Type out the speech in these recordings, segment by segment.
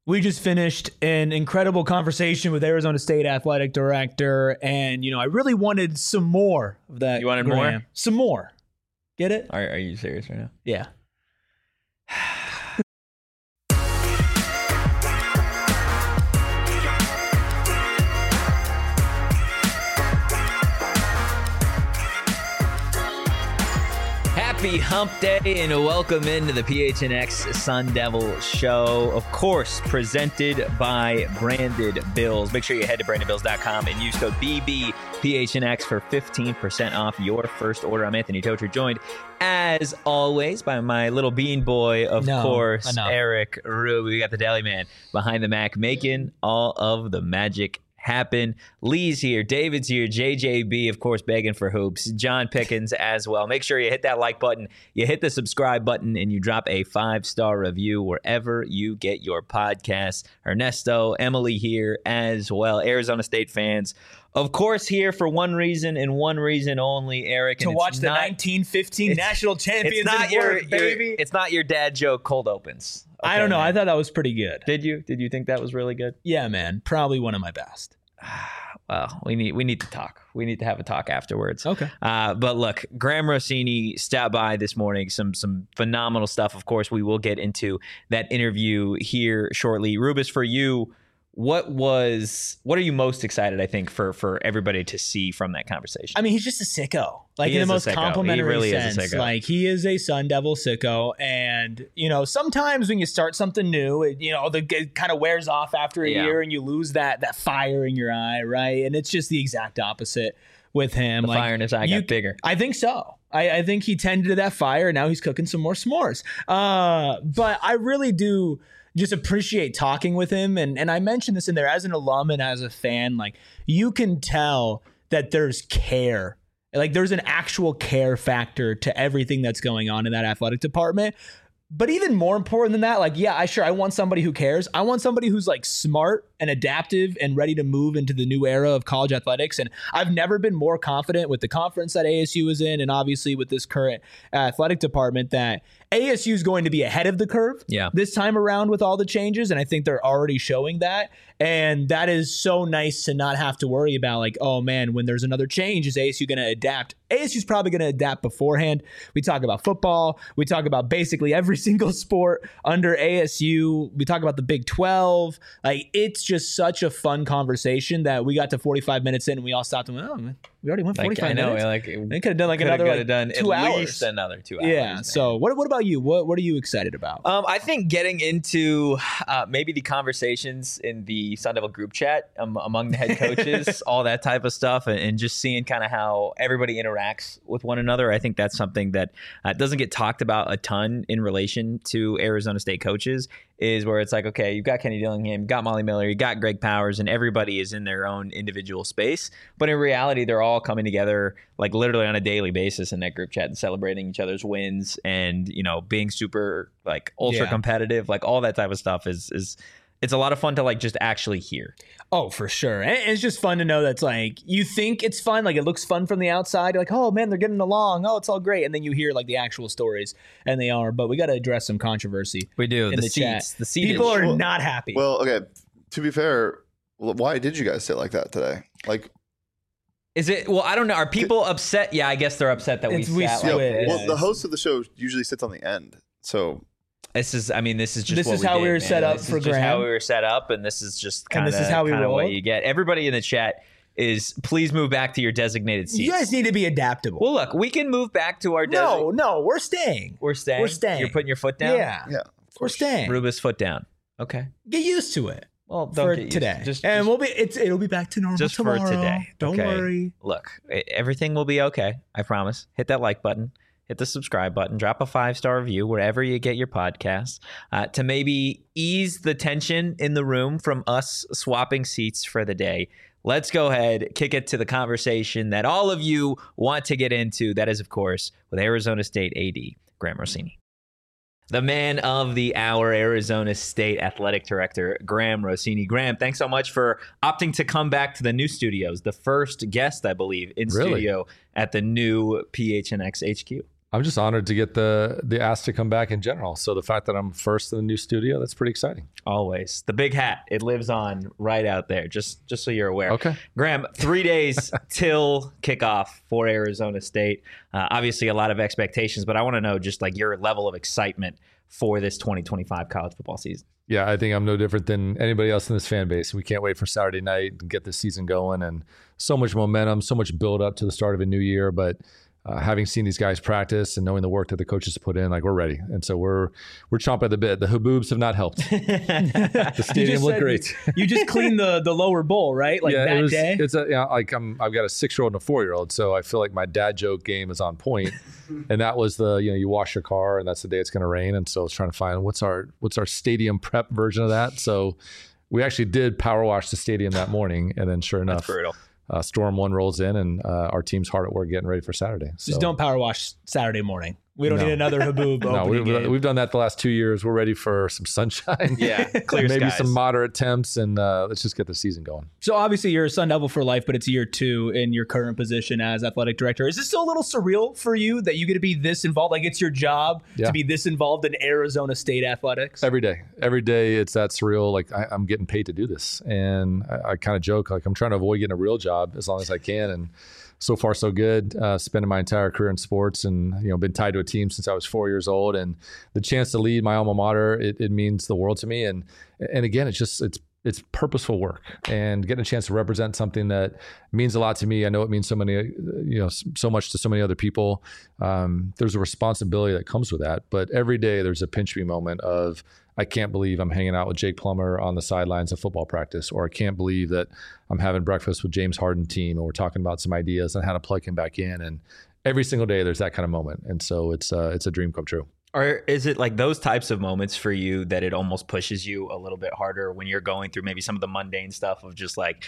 We just finished an incredible conversation with Arizona State athletic director, and I really wanted some more of that. You wanted Graham. more? Some more. Get it? Are you serious right now? Yeah. Happy Hump Day and welcome into the PHNX Sun Devil Show. Of course, presented by Branded Bills. Make sure you head to brandedbills.com and use code BBPHNX for 15% off your first order. I'm Anthony Tocher, joined as always by my little bean boy, of course, Eric Ruby. We got the deli man behind the Mac making all of the magic happen. Lee's here, David's here, JJB, of course, begging for hoops, John Pickens as well. Make sure you hit that like button, you hit the subscribe button, and you drop a 5-star review wherever you get your podcasts. Ernesto, Emily here as well. Arizona State fans, of course, here for one reason and one reason only, Eric. To watch the 1915 national champions baby. It's not your dad joke cold opens. Okay, I don't know. man. I thought that was pretty good. Did you? Did you think that was really good? Yeah, man. Probably one of my best. Well, we need to talk. We need to have a talk afterwards. Okay. But look, Graham Rossini stopped by this morning. Some phenomenal stuff. Of course, we will get into that interview here shortly. Rubus, for you, what are you most excited, I think, for everybody to see from that conversation? I mean, he's just a sicko, like in the most complimentary sense. Like, he is a Sun Devil sicko, and sometimes when you start something new, it kind of wears off after a year, and you lose that fire in your eye, right? And it's just the exact opposite with him. The fire in his eye got bigger. I think so. I think he tended to that fire, and now he's cooking some more s'mores. But I really do just appreciate talking with him. And I mentioned this in there as an alum and as a fan, like, you can tell that there's care. Like, there's an actual care factor to everything that's going on in that athletic department. But even more important than that, like, I want somebody who cares. I want somebody who's like smart and adaptive and ready to move into the new era of college athletics. And I've never been more confident with the conference that ASU is in, and obviously with this current athletic department, that ASU is going to be ahead of the curve this time around with all the changes. And I think they're already showing that. And that is so nice to not have to worry about, like, oh man, when there's another change, is ASU going to adapt? ASU's probably going to adapt beforehand. We talk about football. We talk about basically every single sport under ASU. We talk about the Big 12. Like, it's just such a fun conversation that we got to 45 minutes in and we all stopped and went, oh man, we already went 45 minutes. They could have done another 2 hours. At least another 2 hours. Yeah. Man. So what about you? What are you excited about? I think getting into maybe the conversations in the Sun Devil group chat among the head coaches, all that type of stuff, and just seeing kind of how everybody interacts with one another. I think that's something that doesn't get talked about a ton in relation to Arizona State coaches, is where it's like, okay, you've got Kenny Dillingham, you got Molly Miller, you got Greg Powers, and everybody is in their own individual space. But in reality, they're all coming together like literally on a daily basis in that group chat and celebrating each other's wins and, being super like ultra competitive, like all that type of stuff is it's a lot of fun to like just actually hear. Oh, for sure. And it's just fun to know that's like, you think it's fun, like it looks fun from the outside. You're like, oh man, they're getting along. Oh, it's all great. And then you hear like the actual stories, and they are. But we got to address some controversy. We do. In the seats. chat. The seats. People are not happy. Well, okay. To be fair, why did you guys sit like that today? Like, is it? Well, I don't know. Are people upset? Yeah, I guess they're upset that we sat like this. Well, the host of the show usually sits on the end, so. This is how we were set up for Graham. This is how we were set up, and this is just kind of what you get. Everybody in the chat is, please move back to your designated seats. You guys need to be adaptable. Well, look, we can move back to our No, we're staying. We're staying. You're putting your foot down? Yeah. We're staying. Rubus, foot down. Okay. Get used to it. Well, for today. It'll be back to normal just tomorrow. For today. Don't worry. Look, everything will be okay. I promise. Hit that like button. Hit the subscribe button, drop a 5-star review wherever you get your podcasts to maybe ease the tension in the room from us swapping seats for the day. Let's go ahead, kick it to the conversation that all of you want to get into. That is, of course, with Arizona State AD, Graham Rossini. The man of the hour, Arizona State Athletic Director, Graham Rossini. Graham, thanks so much for opting to come back to the new studios. The first guest, I believe, in studio at the new PHNX HQ. I'm just honored to get the ask to come back in general. So the fact that I'm first in the new studio, that's pretty exciting. Always. The big hat, it lives on right out there, just so you're aware. Okay. Graham, 3 days till kickoff for Arizona State. Obviously a lot of expectations, but I want to know just like your level of excitement for this 2025 college football season. Yeah, I think I'm no different than anybody else in this fan base. We can't wait for Saturday night and get this season going, and so much momentum, so much build up to the start of a new year. But having seen these guys practice and knowing the work that the coaches put in, like we're ready. And so we're chomping at the bit. The haboobs have not helped. The stadium looked great. You just cleaned the lower bowl, right? Like yeah, that day? It's I've got a 6-year-old and a 4-year-old. So I feel like my dad joke game is on point. And that was you wash your car and that's the day it's going to rain. And so I was trying to find what's our stadium prep version of that. So we actually did power wash the stadium that morning. And then sure enough, That's brutal. Storm 1 rolls in, and our team's hard at work getting ready for Saturday. So. Just don't power wash Saturday morning. We don't need another haboob opening game. We've done that the last 2 years. We're ready for some sunshine. Yeah, clear maybe skies. some moderate temps, and let's just get the season going. So obviously you're a Sun Devil for life, but it's year 2 in your current position as athletic director. Is this still a little surreal for you that you get to be this involved? Like it's your job to be this involved in Arizona State athletics? Every day it's that surreal. Like I'm getting paid to do this. And I kind of joke, like I'm trying to avoid getting a real job as long as I can. And so far, so good. Spending my entire career in sports, and been tied to a team since I was 4 years old. And the chance to lead my alma mater, it means the world to me. And again, it's purposeful work, and getting a chance to represent something that means a lot to me. I know it means so much to so many other people. There's a responsibility that comes with that. But every day there's a pinch me moment of, I can't believe I'm hanging out with Jake Plummer on the sidelines of football practice, or I can't believe that I'm having breakfast with James Harden team and we're talking about some ideas on how to plug him back in. And every single day there's that kind of moment. And so it's a dream come true. Or is it like those types of moments for you that it almost pushes you a little bit harder when you're going through maybe some of the mundane stuff of just like,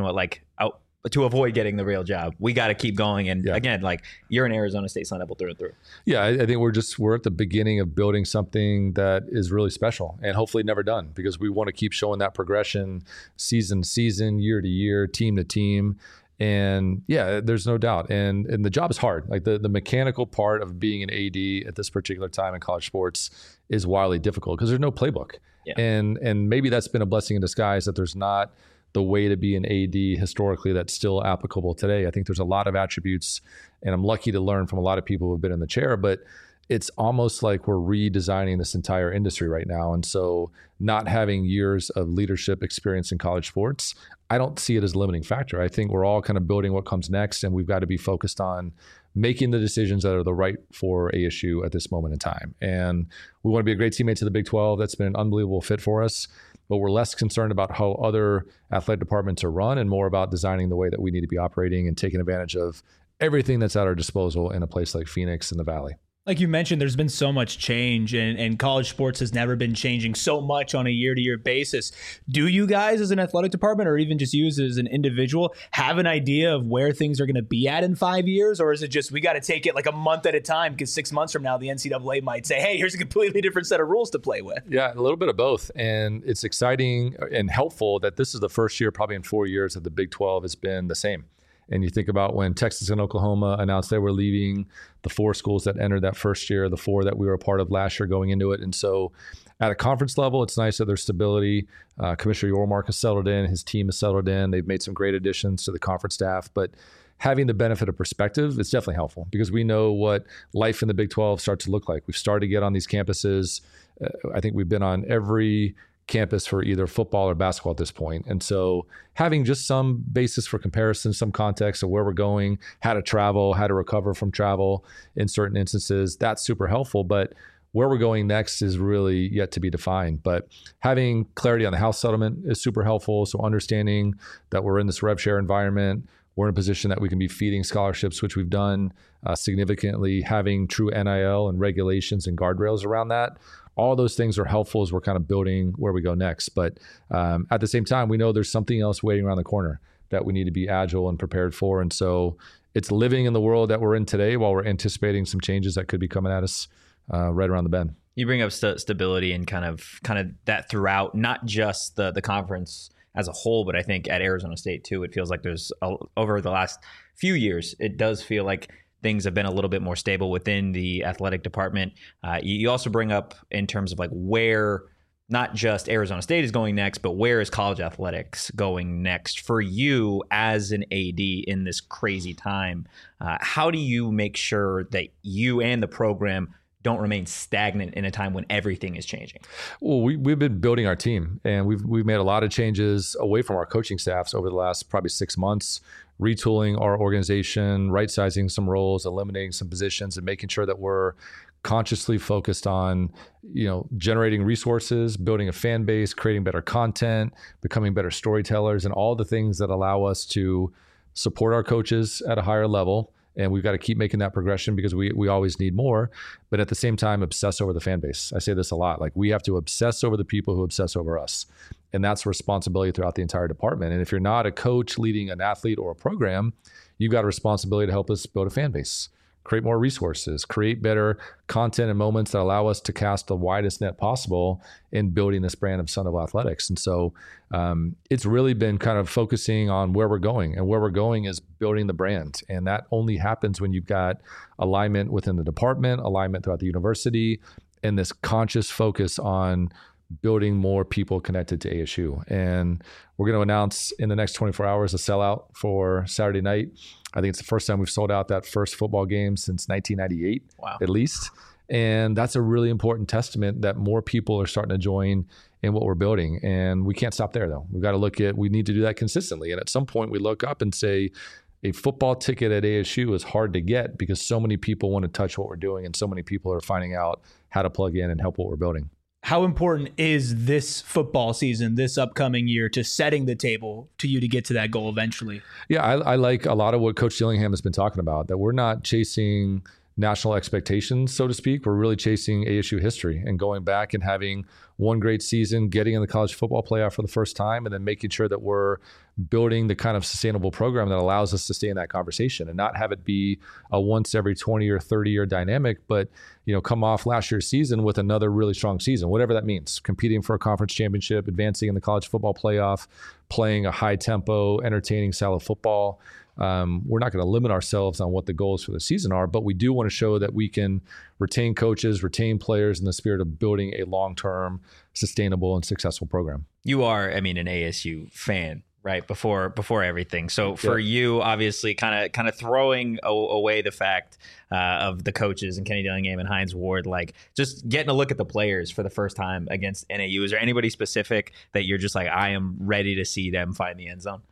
to avoid getting the real job, we got to keep going. And again, like you're an Arizona State Sun Devil through and through. Yeah, I think we're at the beginning of building something that is really special and hopefully never done, because we want to keep showing that progression season to season, year to year, team to team. And yeah, there's no doubt. And the job is hard. Like the mechanical part of being an AD at this particular time in college sports is wildly difficult because there's no playbook. Yeah. And maybe that's been a blessing in disguise that there's not the way to be an AD historically that's still applicable today. I think there's a lot of attributes, and I'm lucky to learn from a lot of people who have been in the chair, but it's almost like we're redesigning this entire industry right now. And so not having years of leadership experience in college sports, I don't see it as a limiting factor. I think we're all kind of building what comes next, and we've got to be focused on making the decisions that are the right for ASU at this moment in time. And we want to be a great teammate to the Big 12. That's been an unbelievable fit for us. But we're less concerned about how other athletic departments are run and more about designing the way that we need to be operating and taking advantage of everything that's at our disposal in a place like Phoenix in the Valley. Like you mentioned, there's been so much change, and college sports has never been changing so much on a year-to-year basis. Do you guys as an athletic department, or even just you as an individual, have an idea of where things are going to be at in 5 years? Or is it just we got to take it like a month at a time, because 6 months from now, the NCAA might say, hey, here's a completely different set of rules to play with? Yeah, a little bit of both. And it's exciting and helpful that this is the first year probably in 4 years that the Big 12 has been the same. And you think about when Texas and Oklahoma announced they were leaving, the 4 schools that entered that first year, the 4 that we were a part of last year going into it. And so at a conference level, it's nice that there's stability. Commissioner Yormark has settled in. His team has settled in. They've made some great additions to the conference staff. But having the benefit of perspective is definitely helpful, because we know what life in the Big 12 starts to look like. We've started to get on these campuses. I think we've been on every campus for either football or basketball at this point. And so having just some basis for comparison, some context of where we're going, how to travel, how to recover from travel in certain instances, that's super helpful. But where we're going next is really yet to be defined. But having clarity on the House settlement is super helpful. So understanding that we're in this rev share environment, we're in a position that we can be feeding scholarships, which we've done significantly, having true NIL and regulations and guardrails around that. All those things are helpful as we're kind of building where we go next. But at the same time, we know there's something else waiting around the corner that we need to be agile and prepared for. And so it's living in the world that we're in today while we're anticipating some changes that could be coming at us right around the bend. You bring up stability and kind of that throughout, not just the conference as a whole, but I think at Arizona State too, it feels like there's over the last few years, it does feel like things have been a little bit more stable within the athletic department. You also bring up in terms of like where not just Arizona State is going next, but where is college athletics going next for you as an AD in this crazy time? How do you make sure that you and the program don't remain stagnant in a time when everything is changing? Well, we've been building our team, and we've made a lot of changes away from our coaching staffs over the last probably 6 months, retooling our organization, right-sizing some roles, eliminating some positions, and making sure that we're consciously focused on, generating resources, building a fan base, creating better content, becoming better storytellers, and all the things that allow us to support our coaches at a higher level. And we've got to keep making that progression because we always need more, but at the same time, obsess over the fan base. I say this a lot, like we have to obsess over the people who obsess over us. And that's a responsibility throughout the entire department. And if you're not a coach leading an athlete or a program, you've got a responsibility to help us build a fan base, create more resources, create better content and moments that allow us to cast the widest net possible in building this brand of Sun Devil Athletics. And so it's really been kind of focusing on where we're going, and where we're going is building the brand. And that only happens when you've got alignment within the department, alignment throughout the university, and this conscious focus on building more people connected to ASU. And we're going to announce in the next 24 hours a sellout for Saturday night. I think it's the first time we've sold out that first football game since 1998, at least. And that's a really important testament that more people are starting to join in what we're building. And we can't stop there, though. We've got to we need to do that consistently. And at some point we look up and say, a football ticket at ASU is hard to get because so many people want to touch what we're doing, and so many people are finding out how to plug in and help what we're building. How important is this football season, this upcoming year, to setting the table to you to get to that goal eventually? Yeah, I like a lot of what Coach Dillingham has been talking about, that we're not chasing national expectations, so to speak. We're really chasing ASU history and going back and having one great season, getting in the college football playoff for the first time, and then making sure that we're building the kind of sustainable program that allows us to stay in that conversation and not have it be a once every 20 or 30 year dynamic, but come off last year's season with another really strong season, whatever that means, competing for a conference championship, advancing in the college football playoff, playing a high tempo, entertaining style of football. We're not going to limit ourselves on what the goals for the season are, but we do want to show that we can retain coaches, retain players in the spirit of building a long-term, sustainable, and successful program. You are, an ASU fan, right? Before everything. So for you, obviously, kind of throwing away the fact of the coaches and Kenny Dillingham and Hines Ward, like just getting a look at the players for the first time against NAU. Is there anybody specific that you're just like, I am ready to see them find the end zone?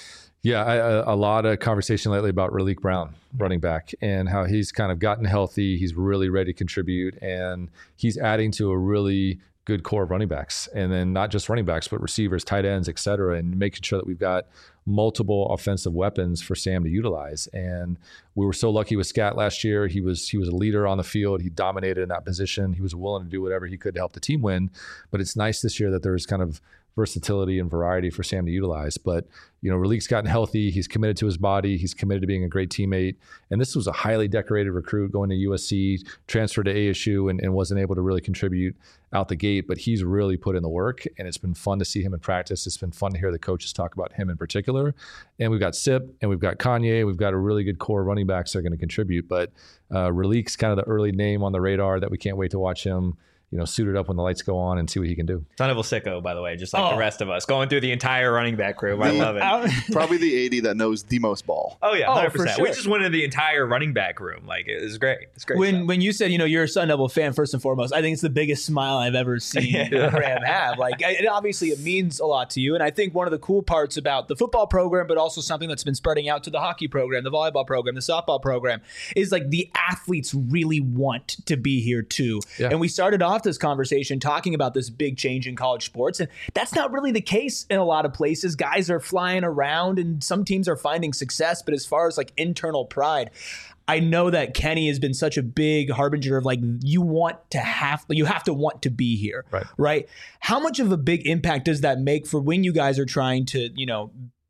Yeah, a lot of conversation lately about Raleek Brown, running back, and how he's kind of gotten healthy. He's really ready to contribute, and he's adding to a really good core of running backs. And then not just running backs, but receivers, tight ends, et cetera, and making sure that we've got multiple offensive weapons for Sam to utilize. And we were so lucky with Scat last year. He was a leader on the field. He dominated in that position. He was willing to do whatever he could to help the team win. But it's nice this year that there's kind of versatility and variety for Sam to utilize. But, Raleek's gotten healthy. He's committed to his body. He's committed to being a great teammate. And this was a highly decorated recruit going to USC, transferred to ASU, and wasn't able to really contribute out the gate. But he's really put in the work, and it's been fun to see him in practice. It's been fun to hear the coaches talk about him in particular. And we've got Sip, and we've got Kanye. We've got a really good core of running backs that are going to contribute. But Raleek's kind of the early name on the radar that we can't wait to watch him suited up when the lights go on and see what he can do. Son of a sicko, by the way, just like the rest of us, going through the entire running back room. I love it. Probably the 80 that knows the most ball. Oh, yeah, 100%. For sure. We just went into the entire running back room. Like, it was great. It's great. When you said, you're a Sun Devil fan, first and foremost, I think it's the biggest smile I've ever seen Graham have. Like, it means a lot to you. And I think one of the cool parts about the football program, but also something that's been spreading out to the hockey program, the volleyball program, the softball program, is like the athletes really want to be here too. Yeah. And we started off this conversation talking about this big change in college sports, and that's not really the case in a lot of places. Guys are flying around and some teams are finding success, but as far as like internal pride, I know that Kenny has been such a big harbinger of like, you have to want to be here, right? How much of a big impact does that make for when you guys are trying to,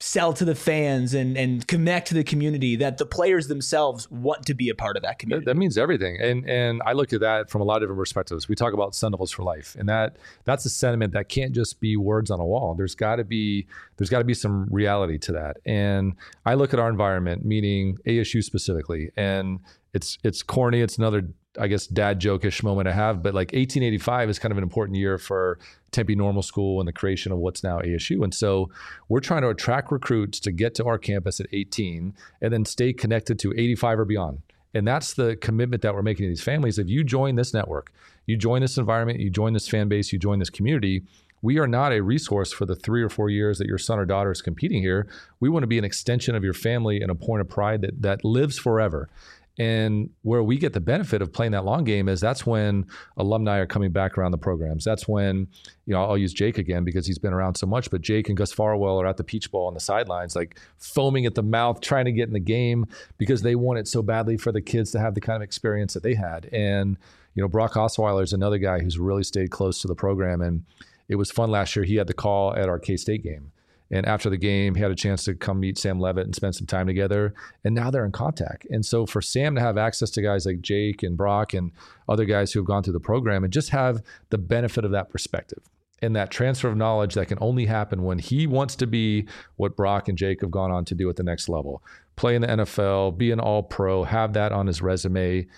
sell to the fans and connect to the community, that the players themselves want to be a part of that community. That means everything. And I look at that from a lot of different perspectives. We talk about Sun Devils for life, and that's a sentiment that can't just be words on a wall. There's got to be some reality to that. And I look at our environment, meaning ASU specifically, and it's corny. It's another, I guess, dad joke-ish moment I have, but like 1885 is kind of an important year for Tempe Normal School and the creation of what's now ASU. And so we're trying to attract recruits to get to our campus at 18 and then stay connected to 85 or beyond. And that's the commitment that we're making to these families. If you join this network, you join this environment, you join this fan base, you join this community, we are not a resource for the 3 or 4 years that your son or daughter is competing here. We want to be an extension of your family and a point of pride that lives forever. And where we get the benefit of playing that long game is that's when alumni are coming back around the programs. That's when, I'll use Jake again because he's been around so much, but Jake and Gus Farwell are at the Peach Bowl on the sidelines, like foaming at the mouth, trying to get in the game because they want it so badly for the kids to have the kind of experience that they had. And, Brock Osweiler is another guy who's really stayed close to the program. And it was fun last year. He had the call at our K-State game. And after the game, he had a chance to come meet Sam Levitt and spend some time together. And now they're in contact. And so for Sam to have access to guys like Jake and Brock and other guys who have gone through the program and just have the benefit of that perspective and that transfer of knowledge that can only happen when he wants to be what Brock and Jake have gone on to do at the next level. Play in the NFL, be an all-pro, have that on his resume.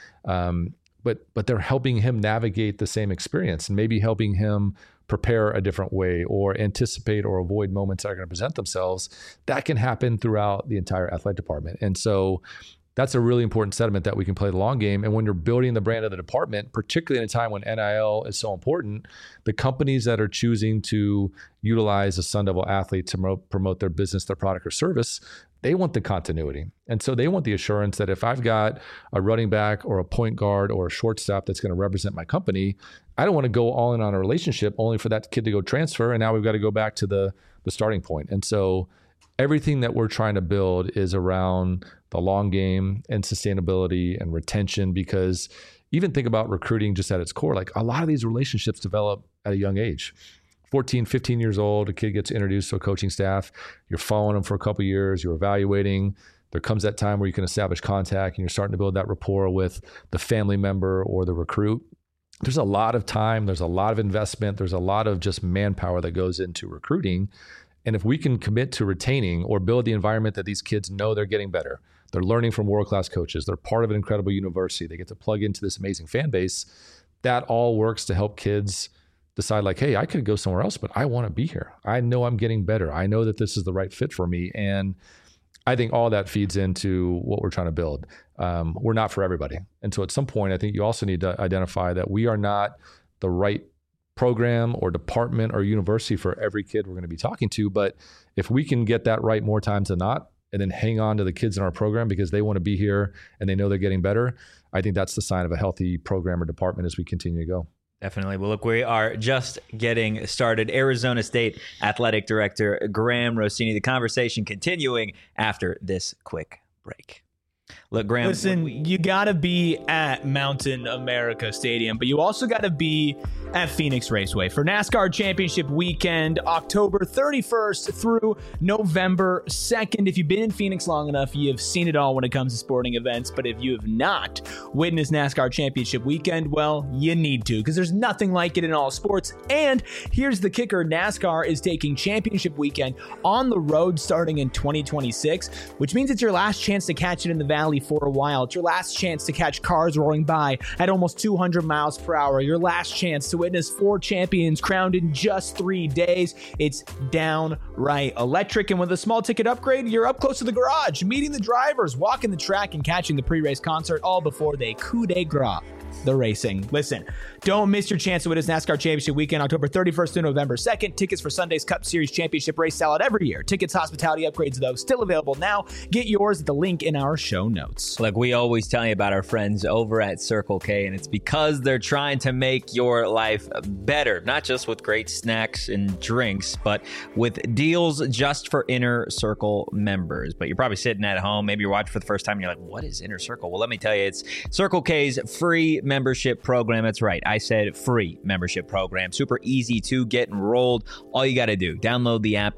But they're helping him navigate the same experience and maybe helping him prepare a different way or anticipate or avoid moments that are going to present themselves. That can happen throughout the entire athletic department. And so that's a really important sentiment that we can play the long game. And when you're building the brand of the department, particularly in a time when NIL is so important, the companies that are choosing to utilize a Sun Devil athlete to promote their business, their product or service, they want the continuity. And so they want the assurance that if I've got a running back or a point guard or a shortstop that's going to represent my company, I don't want to go all in on a relationship only for that kid to go transfer. And now we've got to go back to the starting point. And so everything that we're trying to build is around the long game and sustainability and retention, because even think about recruiting just at its core, like a lot of these relationships develop at a young age. 14, 15 years old, a kid gets introduced to a coaching staff. You're following them for a couple of years. You're evaluating. There comes that time where you can establish contact and you're starting to build that rapport with the family member or the recruit. There's a lot of time. There's a lot of investment. There's a lot of just manpower that goes into recruiting. And if we can commit to retaining or build the environment that these kids know they're getting better, they're learning from world-class coaches, they're part of an incredible university, they get to plug into this amazing fan base, that all works to help kids decide like, hey, I could go somewhere else, but I want to be here. I know I'm getting better. I know that this is the right fit for me. And I think all that feeds into what we're trying to build. We're not for everybody. And so at some point, I think you also need to identify that we are not the right program or department or university for every kid we're going to be talking to. But if we can get that right more times than not, and then hang on to the kids in our program because they want to be here and they know they're getting better, I think that's the sign of a healthy program or department as we continue to go. Definitely. Well, look, we are just getting started. Arizona State Athletic Director Graham Rossini. The conversation continuing after this quick break. Look, Graham. Listen, you got to be at Mountain America Stadium, but you also got to be at Phoenix Raceway for NASCAR Championship Weekend, October 31st through November 2nd. If you've been in Phoenix long enough, you've seen it all when it comes to sporting events. But if you have not witnessed NASCAR Championship Weekend, well, you need to, because there's nothing like it in all sports. And here's the kicker. NASCAR is taking Championship Weekend on the road starting in 2026, which means it's your last chance to catch it in the Valley for a while. It's your last chance to catch cars roaring by at almost 200 miles per hour. Your last chance to witness 4 champions crowned in just 3 days. It's downright electric. And with a small ticket upgrade, you're up close to the garage, meeting the drivers, walking the track, and catching the pre-race concert all before they coup de grace the racing. Listen, don't miss your chance to witness NASCAR Championship Weekend, October 31st to November 2nd. Tickets for Sunday's Cup Series Championship race sell out every year. Tickets, hospitality upgrades, though, still available now. Get yours at the link in our show notes. Like we always tell you about our friends over at Circle K, and it's because they're trying to make your life better, not just with great snacks and drinks, but with deals just for Inner Circle members. But you're probably sitting at home, maybe you're watching for the first time, and you're like, what is Inner Circle? Well, let me tell you, it's Circle K's free membership program. That's right. I said free membership program. Super easy to get enrolled. All you got to do, download the app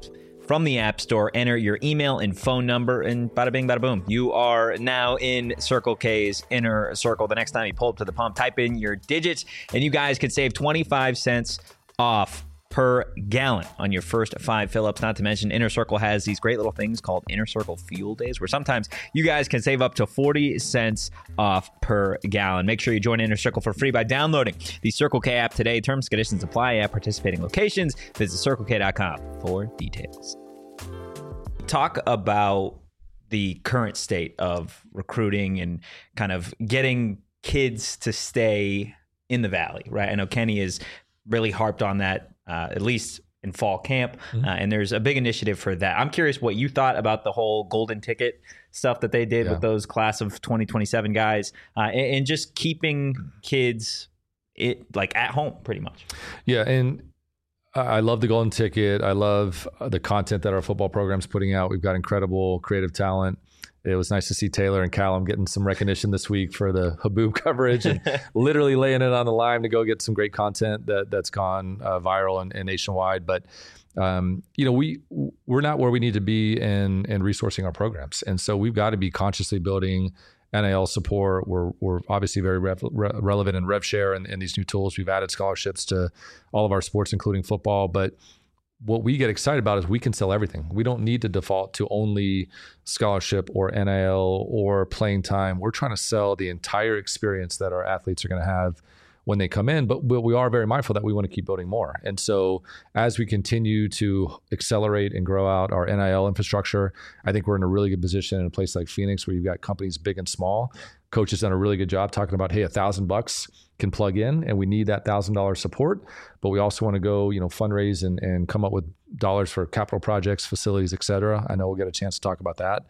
from the App Store. Enter your email and phone number, and bada bing, bada boom. You are now in Circle K's inner circle. The next time you pull up to the pump, type in your digits, and you guys can save 25 cents off per gallon on your first 5 fill-ups. Not to mention, Inner Circle has these great little things called Inner Circle Fuel Days, where sometimes you guys can save up to 40 cents off per gallon. Make sure you join Inner Circle for free by downloading the Circle K app today. Terms and conditions apply at participating locations. Visit CircleK.com for details. Talk about the current state of recruiting and kind of getting kids to stay in the Valley, right? I know Kenny has really harped on that, at least in fall camp. And there's a big initiative for that. I'm curious what you thought about the whole golden ticket stuff that they did with those class of 2027 guys, and just keeping kids at home pretty much. Yeah. And I love the golden ticket. I love the content that our football program's putting out. We've got incredible creative talent. It was nice to see Taylor and Callum getting some recognition this week for the Haboob coverage and literally laying it on the line to go get some great content that's gone viral and nationwide. But we're not where we need to be in resourcing our programs, and so we've got to be consciously building NIL support. We're obviously very relevant in RevShare and these new tools. We've added scholarships to all of our sports, including football, but what we get excited about is we can sell everything. We don't need to default to only scholarship or NIL or playing time. We're trying to sell the entire experience that our athletes are going to have when they come in, but we are very mindful that we want to keep building more. And so as we continue to accelerate and grow out our NIL infrastructure, I think we're in a really good position in a place like Phoenix where you've got companies big and small. Coach has done a really good job talking about, hey, $1,000 can plug in, and we need that $1,000 support, but we also want to go, fundraise and come up with dollars for capital projects, facilities, et cetera. I know we'll get a chance to talk about that.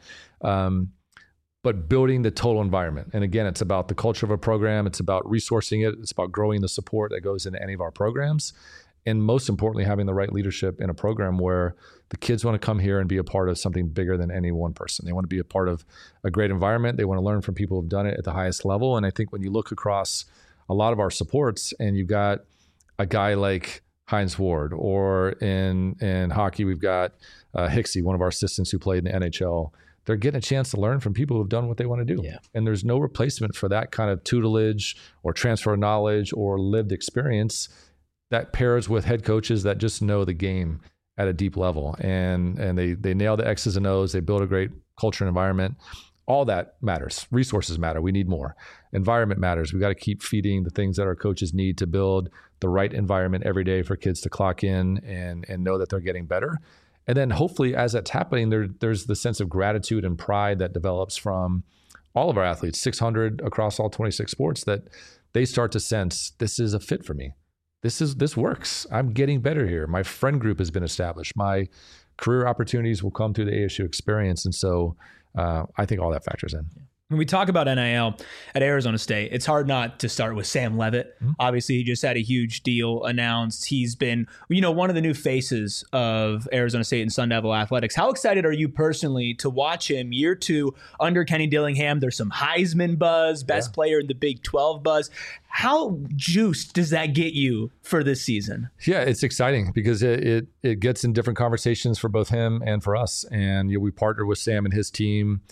But building the total environment. And again, it's about the culture of a program. It's about resourcing it. It's about growing the support that goes into any of our programs. And most importantly, having the right leadership in a program where the kids want to come here and be a part of something bigger than any one person. They want to be a part of a great environment. They want to learn from people who've done it at the highest level. And I think when you look across a lot of our supports and you've got a guy like Hines Ward, or in hockey, we've got Hicksey, one of our assistants who played in the NHL. They're getting a chance to learn from people who've done what they want to do. Yeah. And there's no replacement for that kind of tutelage or transfer of knowledge or lived experience that pairs with head coaches that just know the game at a deep level. And they nail the X's and O's. They build a great culture and environment. All that matters. Resources matter. We need more. Environment matters. We got to keep feeding the things that our coaches need to build the right environment every day for kids to clock in and know that they're getting better. And then hopefully as that's happening, there's the sense of gratitude and pride that develops from all of our athletes, 600 across all 26 sports, that they start to sense this is a fit for me. This works. I'm getting better here. My friend group has been established. My career opportunities will come through the ASU experience. And so I think all that factors in. When we talk about NIL at Arizona State, it's hard not to start with Sam Levitt. Mm-hmm. Obviously, he just had a huge deal announced. He's been, one of the new faces of Arizona State and Sun Devil athletics. How excited are you personally to watch him year 2 under Kenny Dillingham? There's some Heisman buzz, best player in the Big 12 buzz. How juiced does that get you for this season? Yeah, it's exciting because it gets in different conversations for both him and for us. And we partnered with Sam and his team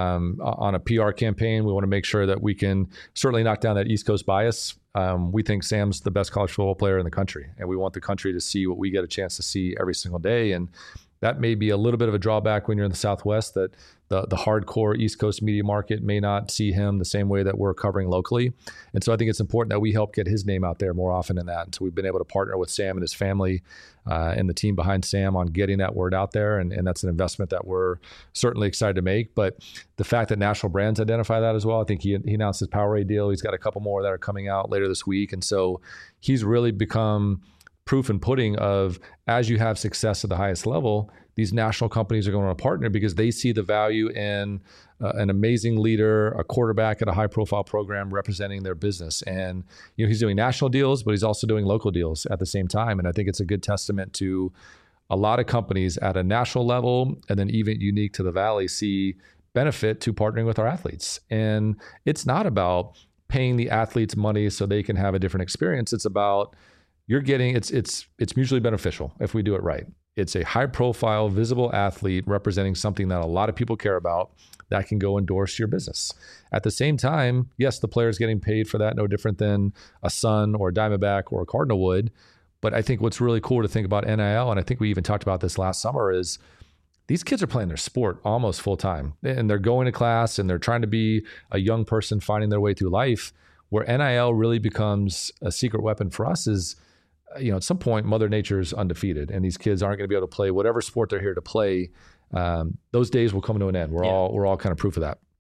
on a PR campaign. We want to make sure that we can certainly knock down that East Coast bias. We think Sam's the best college football player in the country, and we want the country to see what we get a chance to see every single day. And that may be a little bit of a drawback when you're in the Southwest, that the hardcore East Coast media market may not see him the same way that we're covering locally. And so I think it's important that we help get his name out there more often than that. And so we've been able to partner with Sam and his family and the team behind Sam on getting that word out there. And that's an investment that we're certainly excited to make. But the fact that national brands identify that as well, I think he announced his Powerade deal. He's got a couple more that are coming out later this week. And so he's really become proof and pudding of, as you have success at the highest level, these national companies are going to partner because they see the value in an amazing leader, a quarterback at a high-profile program representing their business. And he's doing national deals, but he's also doing local deals at the same time. And I think it's a good testament to a lot of companies at a national level, and then even unique to the Valley, see benefit to partnering with our athletes. And it's not about paying the athletes money so they can have a different experience. It's about it's mutually beneficial if we do it right. It's a high profile, visible athlete representing something that a lot of people care about that can go endorse your business. At the same time, yes, the player's getting paid for that, no different than a Sun or a Diamondback or a Cardinal would. But I think what's really cool to think about NIL, and I think we even talked about this last summer, is these kids are playing their sport almost full time. And they're going to class and they're trying to be a young person finding their way through life. Where NIL really becomes a secret weapon for us is, at some point, Mother Nature's undefeated, and these kids aren't going to be able to play whatever sport they're here to play. Those days will come to an end. We're all kind of proof of that.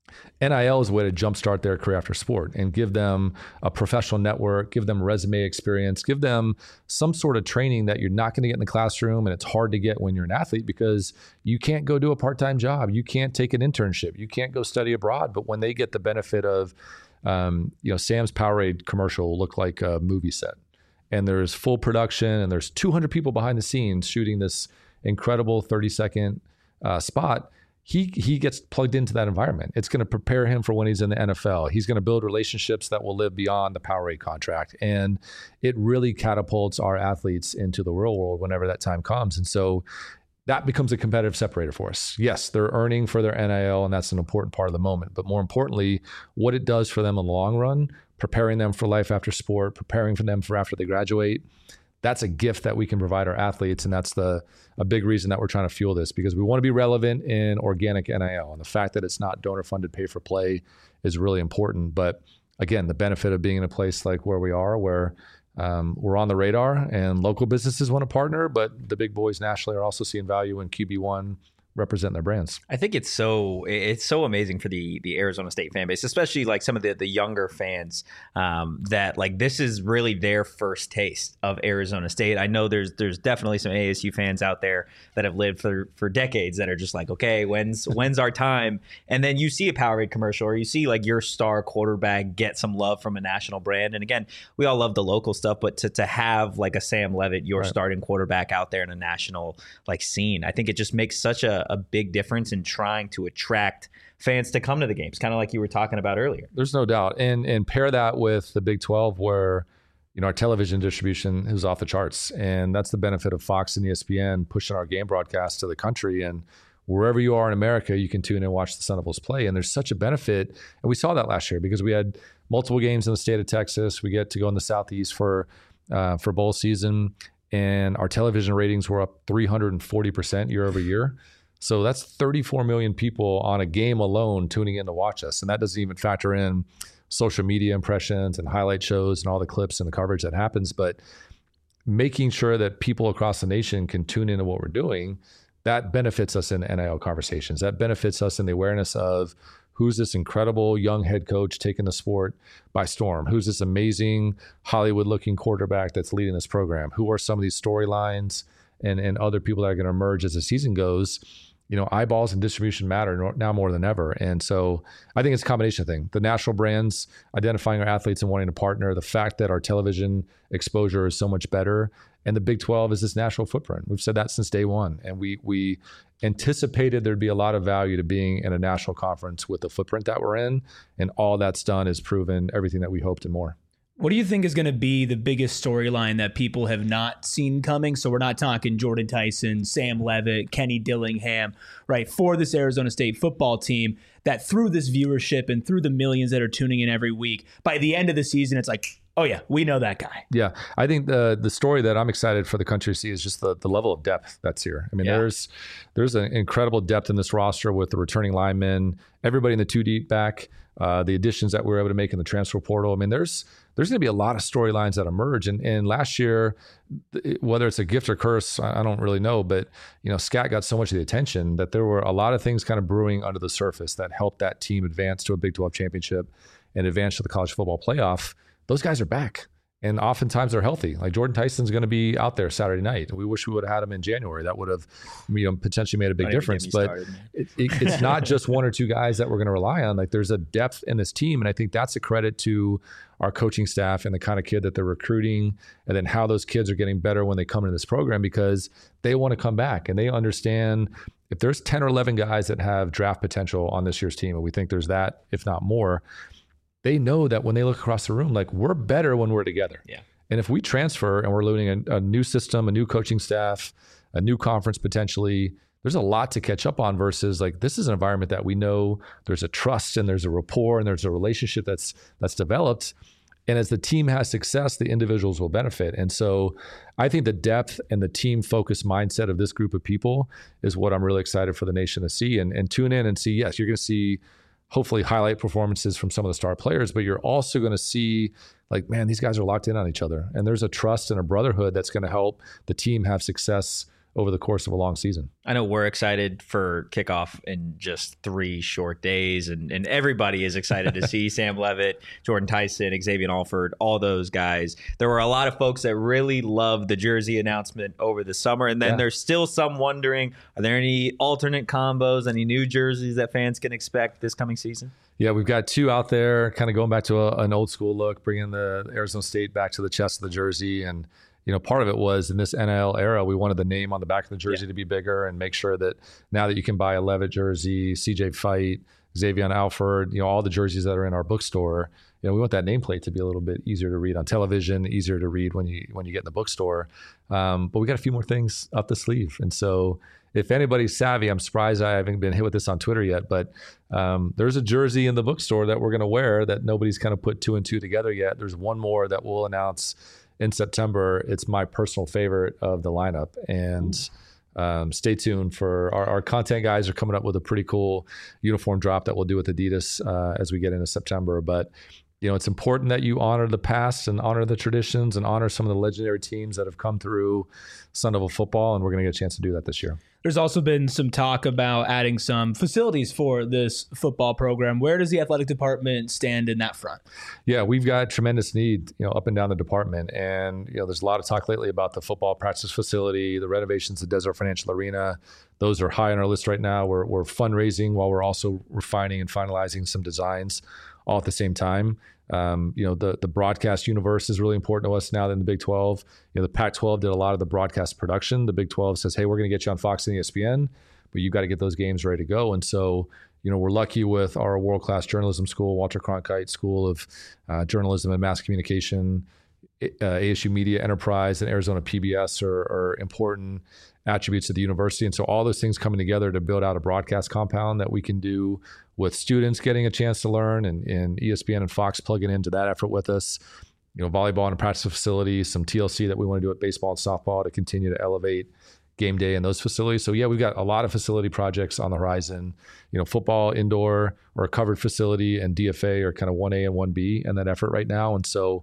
NIL is a way to jumpstart their career after sport and give them a professional network, give them resume experience, give them some sort of training that you're not going to get in the classroom, and it's hard to get when you're an athlete because you can't go do a part-time job, you can't take an internship, you can't go study abroad. But when they get the benefit of, Sam's Powerade commercial will look like a movie set. And there's full production, and there's 200 people behind the scenes shooting this incredible 30-second spot. He gets plugged into that environment. It's going to prepare him for when he's in the NFL. He's going to build relationships that will live beyond the Powerade contract. And it really catapults our athletes into the real world whenever that time comes. And so that becomes a competitive separator for us. Yes, they're earning for their NIL, and that's an important part of the moment. But more importantly, what it does for them in the long run, preparing them for life after sport, preparing for them for after they graduate, that's a gift that we can provide our athletes. And that's a big reason that we're trying to fuel this, because we want to be relevant in organic NIL. And the fact that it's not donor funded pay for play is really important. But again, the benefit of being in a place like where we are, where we're on the radar and local businesses want to partner, but the big boys nationally are also seeing value in QB1 represent their brands. I think it's so amazing for the Arizona State fan base, especially like some of the younger fans, that like this is really their first taste of Arizona State. I know there's definitely some ASU fans out there that have lived for decades that are just like, okay, when's our time? And then you see a Powerade commercial, or you see like your star quarterback get some love from a national brand. And again, we all love the local stuff, but to have like a Sam Levitt, your starting quarterback out there in a national like scene, I think it just makes such a big difference in trying to attract fans to come to the games, kind of like you were talking about earlier. There's no doubt. And pair that with the Big 12 where, our television distribution is off the charts. And that's the benefit of Fox and ESPN pushing our game broadcast to the country. And wherever you are in America, you can tune in and watch the Sun Devils play. And there's such a benefit. And we saw that last year because we had multiple games in the state of Texas. We get to go in the Southeast for bowl season. And our television ratings were up 340% year over year. So that's 34 million people on a game alone tuning in to watch us. And that doesn't even factor in social media impressions and highlight shows and all the clips and the coverage that happens. But making sure that people across the nation can tune into what we're doing, that benefits us in NIL conversations. That benefits us in the awareness of who's this incredible young head coach taking the sport by storm? Who's this amazing Hollywood-looking quarterback that's leading this program? Who are some of these storylines and other people that are going to emerge as the season goes? Eyeballs and distribution matter now more than ever. And so I think it's a combination thing. The national brands, identifying our athletes and wanting to partner, the fact that our television exposure is so much better, and the Big 12 is this national footprint. We've said that since day one. And we anticipated there'd be a lot of value to being in a national conference with the footprint that we're in. And all that's done is proven everything that we hoped and more. What do you think is going to be the biggest storyline that people have not seen coming? So we're not talking Jordan Tyson, Sam Levitt, Kenny Dillingham, right? For this Arizona State football team, that through this viewership and through the millions that are tuning in every week, by the end of the season, it's like, oh yeah, we know that guy. Yeah, I think the story that I'm excited for the country to see is just the level of depth that's here. I mean, there's an incredible depth in this roster with the returning linemen, everybody in the 2 deep back, the additions that we were able to make in the transfer portal. I mean, there's going to be a lot of storylines that emerge. And last year, whether it's a gift or curse, I don't really know, but Scat got so much of the attention that there were a lot of things kind of brewing under the surface that helped that team advance to a Big 12 championship and advance to the college football playoff. Those guys are back. And oftentimes they're healthy. Like Jordan Tyson's going to be out there Saturday night. We wish we would have had him in January. That would have potentially made a big difference. But it's not just one or two guys that we're going to rely on. Like there's a depth in this team. And I think that's a credit to our coaching staff and the kind of kid that they're recruiting, and then how those kids are getting better when they come into this program, because they want to come back and they understand if there's 10 or 11 guys that have draft potential on this year's team, and we think there's that, if not more, they know that when they look across the room, like we're better when we're together. Yeah. And if we transfer and we're learning a new system, a new coaching staff, a new conference potentially. There's a lot to catch up on versus like this is an environment that we know there's a trust and there's a rapport and there's a relationship that's developed. And as the team has success, the individuals will benefit. And so I think the depth and the team focused mindset of this group of people is what I'm really excited for the nation to see and tune in and see, yes, you're going to see hopefully highlight performances from some of the star players, but you're also going to see like, man, these guys are locked in on each other. And there's a trust and a brotherhood that's going to help the team have success over the course of a long season. I know we're excited for kickoff in just 3 short days, and everybody is excited to see Sam Levitt, Jordan Tyson, Xavier Alford, all those guys. There were a lot of folks that really loved the jersey announcement over the summer, and then there's still some wondering, are there any alternate combos, any new jerseys that fans can expect this coming season? Yeah, we've got 2 out there, kind of going back to an old school look, bringing the Arizona State back to the chest of the jersey. And part of it was in this NIL era, we wanted the name on the back of the jersey to be bigger and make sure that now that you can buy a Levitt jersey, CJ Fight, Xavier Alford, all the jerseys that are in our bookstore, we want that nameplate to be a little bit easier to read on television, easier to read when you get in the bookstore. But we got a few more things up the sleeve. And so if anybody's savvy, I'm surprised I haven't been hit with this on Twitter yet, but there's a jersey in the bookstore that we're going to wear that nobody's kind of put 2 and 2 together yet. There's one more that we'll announce in September. It's my personal favorite of the lineup. And stay tuned for our content guys are coming up with a pretty cool uniform drop that we'll do with Adidas as we get into September. But it's important that you honor the past and honor the traditions and honor some of the legendary teams that have come through Sun Devil football. And we're going to get a chance to do that this year. There's also been some talk about adding some facilities for this football program. Where does the athletic department stand in that front? Yeah, we've got tremendous need, up and down the department. And, there's a lot of talk lately about the football practice facility, the renovations to Desert Financial Arena. Those are high on our list right now. We're fundraising while we're also refining and finalizing some designs all at the same time. The broadcast universe is really important to us now than the Big 12. The Pac-12 did a lot of the broadcast production. The Big 12 says, hey, we're going to get you on Fox and ESPN, but you've got to get those games ready to go. And so, we're lucky with our world-class journalism school, Walter Cronkite School of Journalism and Mass Communication, ASU Media Enterprise, and Arizona PBS are important attributes of the university. And so all those things coming together to build out a broadcast compound that we can do with students getting a chance to learn and ESPN and Fox plugging into that effort with us, volleyball and a practice facility, some TLC that we want to do at baseball and softball to continue to elevate game day in those facilities. So yeah, we've got a lot of facility projects on the horizon. Football indoor or a covered facility and DFA are kind of 1A and 1B in that effort right now. And so,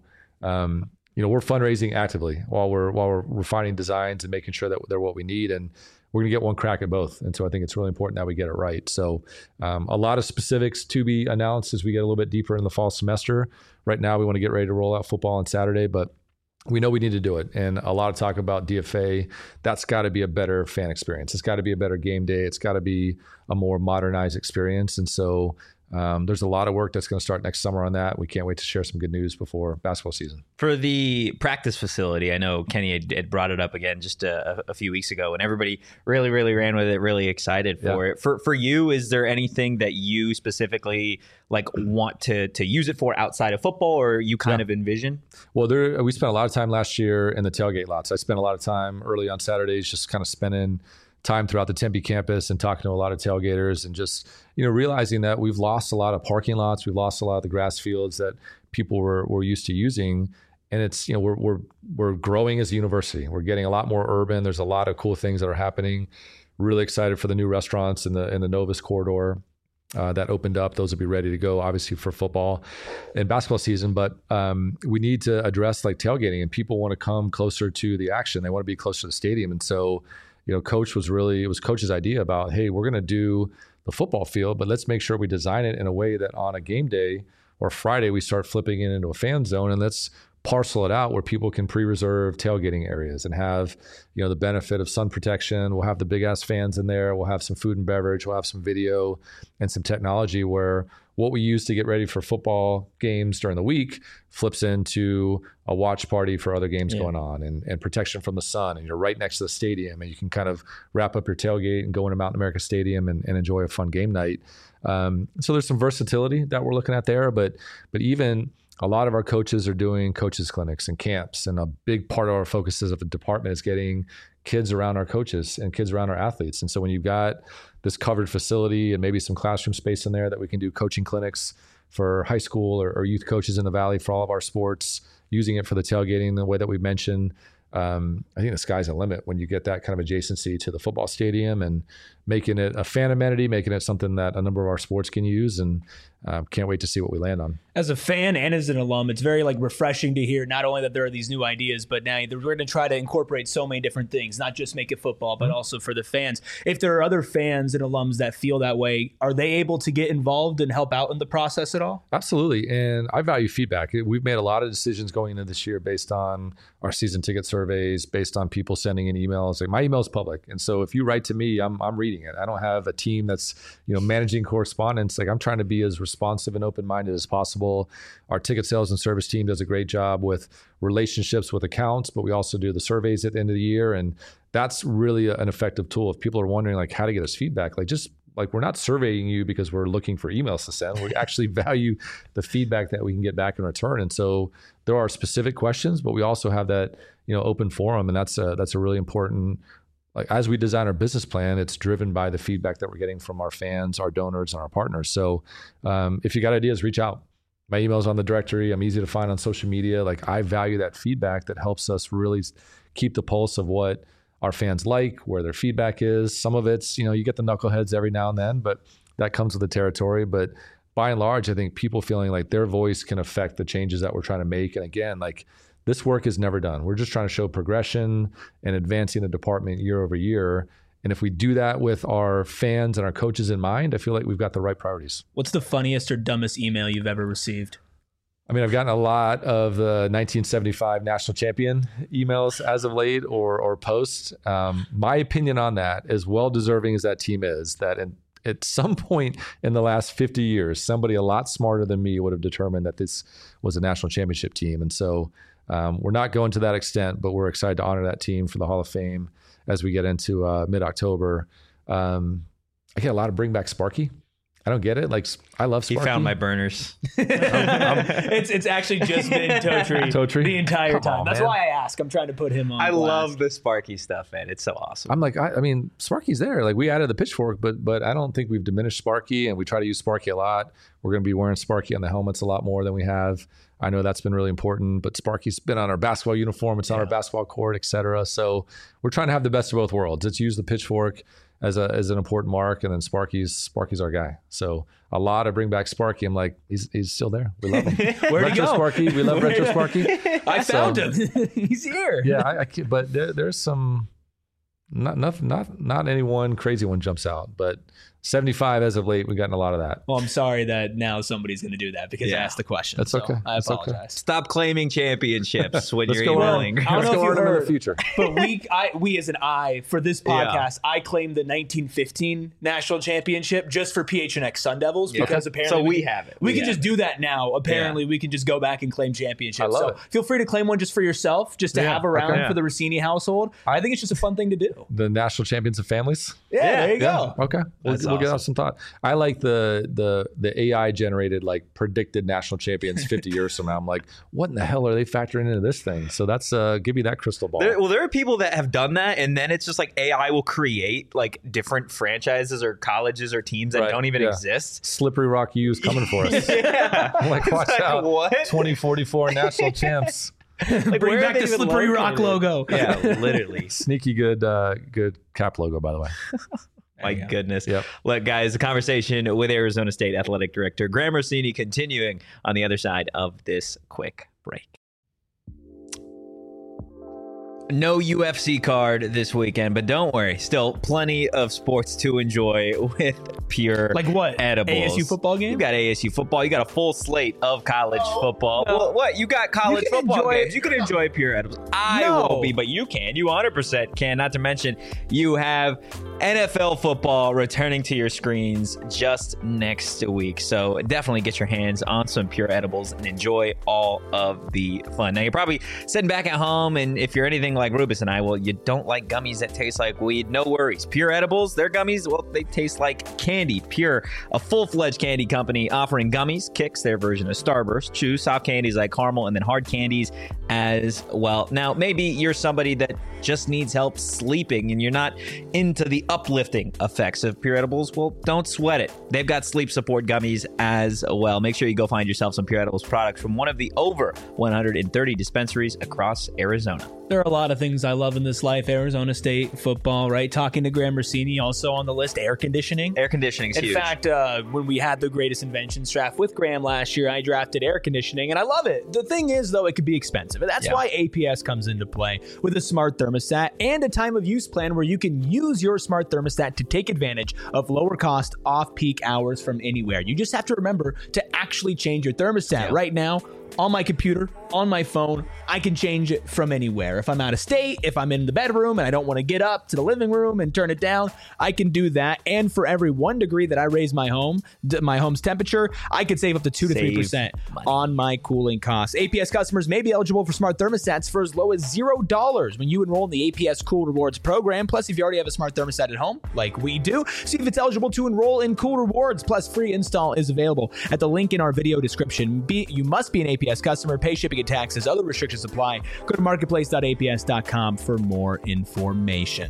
we're fundraising actively while we're refining designs and making sure that they're what we need. And we're going to get one crack at both. And so I think it's really important that we get it right. So a lot of specifics to be announced as we get a little bit deeper in the fall semester. Right now, we want to get ready to roll out football on Saturday, but we know we need to do it. And a lot of talk about DFA. That's got to be a better fan experience. It's got to be a better game day. It's got to be a more modernized experience. And so there's a lot of work that's going to start next summer on that. We can't wait to share some good news before basketball season. For the practice facility, I know Kenny had brought it up again just a few weeks ago, and everybody really, really ran with it, really excited for it. For you, is there anything that you specifically want to use it for outside of football, or you kind of envision? Well, we spent a lot of time last year in the tailgate lots. I spent a lot of time early on Saturdays just kind of spending time throughout the Tempe campus and talking to a lot of tailgaters and just, realizing that we've lost a lot of parking lots. We've lost a lot of the grass fields that people were used to using. And it's, we're growing as a university. We're getting a lot more urban. There's a lot of cool things that are happening. Really excited for the new restaurants in the Novus corridor that opened up. Those will be ready to go, obviously, for football and basketball season. But we need to address tailgating, and people want to come closer to the action. They want to be closer to the stadium. And so, Coach it was Coach's idea about, hey, we're going to do the football field, but let's make sure we design it in a way that on a game day or Friday, we start flipping it into a fan zone, and let's parcel it out where people can pre-reserve tailgating areas and have, the benefit of sun protection. We'll have the big ass fans in there. We'll have some food and beverage. We'll have some video and some technology where what we use to get ready for football games during the week flips into a watch party for other games going on and protection from the sun. And you're right next to the stadium, and you can kind of wrap up your tailgate and go into Mountain America Stadium and enjoy a fun game night. So there's some versatility that we're looking at there, but even a lot of our coaches are doing coaches clinics and camps. And a big part of our focus as a department is getting kids around our coaches and kids around our athletes. And so when you've got this covered facility and maybe some classroom space in there that we can do coaching clinics for high school or youth coaches in the Valley for all of our sports, using it for the tailgating the way that we mentioned, I think the sky's the limit when you get that kind of adjacency to the football stadium and making it a fan amenity, making it something that a number of our sports can use, and can't wait to see what we land on. As a fan and as an alum, it's very refreshing to hear not only that there are these new ideas, but now we're going to try to incorporate so many different things, not just make it football, but also for the fans. If there are other fans and alums that feel that way, are they able to get involved and help out in the process at all? Absolutely. And I value feedback. We've made a lot of decisions going into this year based on our season ticket surveys, based on people sending in emails. Like, my email is public. And so if you write to me, I'm reading it. I don't have a team that's, managing correspondence. Like, I'm trying to be as responsive and open-minded as possible. Our ticket sales and service team does a great job with relationships with accounts, but we also do the surveys at the end of the year. And that's really an effective tool. If people are wondering how to get us feedback, we're not surveying you because we're looking for emails to send. We actually value the feedback that we can get back in return. And so there are specific questions, but we also have that, open forum. And that's a really important, as we design our business plan, it's driven by the feedback that we're getting from our fans, our donors, and our partners. So if you got ideas, reach out. My email's on the directory. I'm easy to find on social media. I value that feedback that helps us really keep the pulse of what our fans like, where their feedback is. Some of it's, you get the knuckleheads every now and then, but that comes with the territory. But by and large, I think people feeling like their voice can affect the changes that we're trying to make. And again, this work is never done. We're just trying to show progression and advancing the department year over year. And if we do that with our fans and our coaches in mind, I feel like we've got the right priorities. What's the funniest or dumbest email you've ever received? I mean, I've gotten a lot of the 1975 national champion emails as of late or posts. My opinion on that, as well-deserving as that team is, that at some point in the last 50 years, somebody a lot smarter than me would have determined that this was a national championship team. And so we're not going to that extent, but we're excited to honor that team for the Hall of Fame as we get into mid-October. I get a lot of bring back Sparky. I don't get it. I love Sparky. He found my burners. It's actually just been Totri the entire time. That's why I ask. I'm trying to put him on. I blast. love the Sparky stuff, man. It's so awesome. I'm I mean, Sparky's there. We added the pitchfork, but I don't think we've diminished Sparky, and we try to use Sparky a lot. We're going to be wearing Sparky on the helmets a lot more than we have. I know that's been really important, but Sparky's been on our basketball uniform. It's on our basketball court, et cetera. So we're trying to have the best of both worlds. Let's use the pitchfork as an important mark, and then Sparky's our guy. So a lot of bring back Sparky. I'm he's still there. We love him. Where'd he go? Sparky. We love Retro Sparky. I found him. He's here. Yeah, but there's some not any one crazy one jumps out, but 75 as of late, we've gotten a lot of that. Well, I'm sorry that now somebody's going to do that because I asked the question. That's okay. I apologize. Okay. Stop claiming championships when you're go emailing. I don't know if you heard, in the future. But we as an I for this podcast, I claimed the 1915 national championship just for PHNX Sun Devils because apparently we have it. We can just do that now. Apparently, we can just go back and claim championships. I love it. Feel free to claim one just for yourself, just to have around for the Rossini household. I think it's just a fun thing to do. The national champions of families. Yeah, there you go. Okay, we'll get out some thought. I like the AI generated predicted national champions 50 years from now. I'm what in the hell are they factoring into this thing? So that's give me that crystal ball. There are people that have done that, and then it's just AI will create different franchises or colleges or teams that don't even exist. Slippery Rock U's coming for us. I'm watch out! What? 2044 national champs. Bring back the Slippery Rock logo. Yeah, literally. Sneaky good cap logo, by the way. My goodness. Yep. Look, guys, the conversation with Arizona State Athletic Director Graham Rossini continuing on the other side of this quick break. No UFC card this weekend, but don't worry. Still plenty of sports to enjoy with Pure what? Edibles. ASU football game? You got ASU football. You got a full slate of college football. No. Well, what? You got college football games. You can enjoy Pure Edibles. I won't be, but you can. You 100% can. Not to mention, you have NFL football returning to your screens just next week. So definitely get your hands on some Pure Edibles and enjoy all of the fun. Now, you're probably sitting back at home, and if you're anything like Rubus and I, well, you don't like gummies that taste like weed, no worries. Pure Edibles, their gummies, well, they taste like candy. Pure, a full-fledged candy company offering gummies, Kicks, their version of Starburst, Chew, soft candies like caramel, and then hard candies as well. Now, maybe you're somebody that just needs help sleeping and you're not into the uplifting effects of Pure Edibles. Well, don't sweat it. They've got sleep support gummies as well. Make sure you go find yourself some Pure Edibles products from one of the over 130 dispensaries across Arizona. There are a lot of things I love in this life. Arizona State football, right? Talking to Graham Rossini, also on the list, air conditioning. Air conditioning is huge. In fact, when we had the greatest inventions draft with Graham last year, I drafted air conditioning, and I love it. The thing is, though, it could be expensive. And that's why APS comes into play with a smart thermostat and a time of use plan where you can use your smart thermostat to take advantage of lower cost off-peak hours from anywhere. You just have to remember to actually change your thermostat. Right now, on my computer, on my phone, I can change it from anywhere. If I'm out of state, if I'm in the bedroom and I don't want to get up to the living room and turn it down, I can do that. And for every 1 degree that I raise my home's temperature, I could save up to 2 to 3% on my cooling costs. APS customers may be eligible for smart thermostats for as low as $0 when you enroll in the APS Cool Rewards program. Plus, if you already have a smart thermostat at home, like we do, see if it's eligible to enroll in Cool Rewards. Plus, free install is available at the link in our video description. You must be an APS customer, pay shipping and taxes. Other restrictions apply. Go to marketplace.aps.com for more information.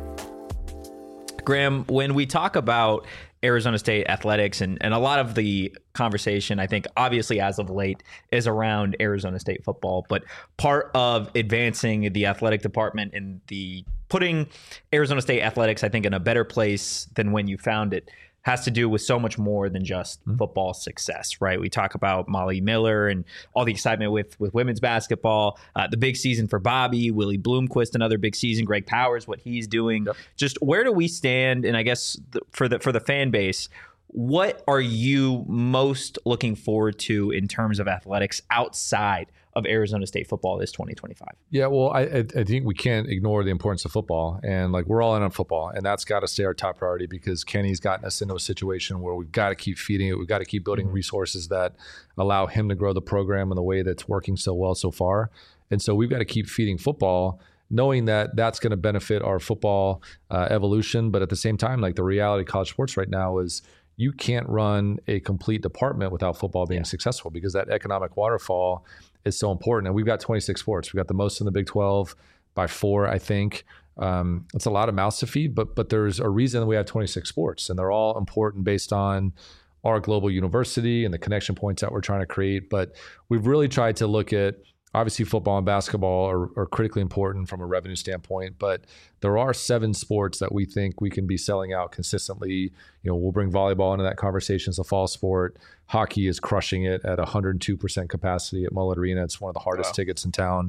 Graham, when we talk about Arizona State athletics and a lot of the conversation, I think obviously as of late, is around Arizona State football, but part of advancing the athletic department and the putting Arizona State athletics, I think, in a better place than when you found it has to do with so much more than just football success, right? We talk about Molly Miller and all the excitement with women's basketball, the big season for Bobby, Willie Bloomquist, another big season, Greg Powers, what he's doing. Just where do we stand? And I guess for the fan base, what are you most looking forward to in terms of athletics outside of Arizona State football this 2025? Yeah, well, I think we can't ignore the importance of football, and like we're all in on football, and that's got to stay our top priority because Kenny's gotten us into a situation where we've got to keep feeding it. We've got to keep building resources that allow him to grow the program in the way that's working so well so far. And so we've got to keep feeding football, knowing that that's going to benefit our football evolution. But at the same time, like the reality of college sports right now is you can't run a complete department without football being successful because that economic waterfall is so important. And we've got 26 sports. We've got the most in the Big 12 by 4, I think. It's a lot of mouths to feed, but there's a reason we have 26 sports, and they're all important based on our global university and the connection points that we're trying to create. But we've really tried to look at, obviously football and basketball are critically important from a revenue standpoint, but there are 7 sports that we think we can be selling out consistently. You know, we'll bring volleyball into that conversation as a fall sport. Hockey is crushing it at 102% capacity at Mullet Arena. It's one of the hardest tickets in town.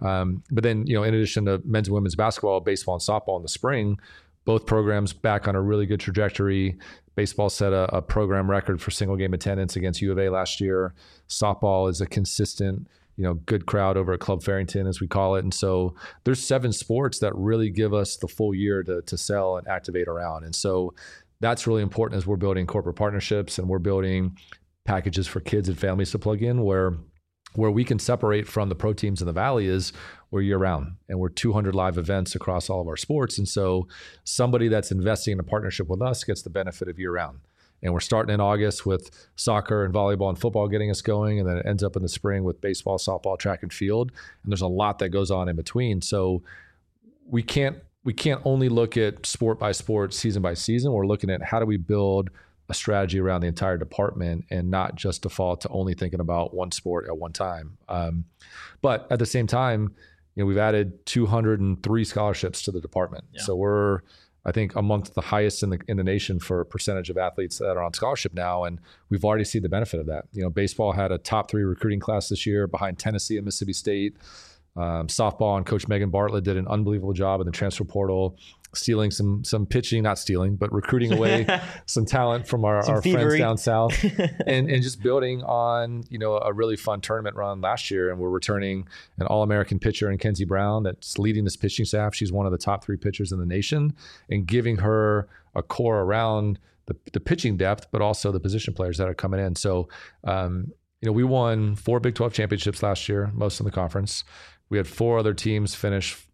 But then, you know, in addition to men's and women's basketball, baseball and softball in the spring, both programs back on a really good trajectory. Baseball set a program record for single game attendance against U of A last year. Softball is a consistent, you know, good crowd over at Club Farrington, as we call it. And so there's 7 sports that really give us the full year to sell and activate around. And so that's really important as we're building corporate partnerships and we're building packages for kids and families to plug in where we can separate from the pro teams in the Valley is we're year round and we're 200 live events across all of our sports. And so somebody that's investing in a partnership with us gets the benefit of year round. And we're starting in August with soccer and volleyball and football getting us going. And then it ends up in the spring with baseball, softball, track and field. And there's a lot that goes on in between. So we can't only look at sport by sport, season by season. We're looking at how do we build a strategy around the entire department and not just default to only thinking about one sport at one time. But at the same time, you know, we've added 203 scholarships to the department. Yeah. So we're, I think, amongst the highest in the nation for percentage of athletes that are on scholarship now, and we've already seen the benefit of that. You know, baseball had a top 3 recruiting class this year behind Tennessee and Mississippi State. Softball and Coach Megan Bartlett did an unbelievable job in the transfer portal, stealing some pitching, not stealing, but recruiting away some talent from our friends down south, and just building on, you know, a really fun tournament run last year. And we're returning an All-American pitcher in Kenzie Brown that's leading this pitching staff. She's one of the top 3 pitchers in the nation, and giving her a core around the pitching depth, but also the position players that are coming in. So, you know, we won 4 Big 12 championships last year, most in the conference. We had 4 other teams finish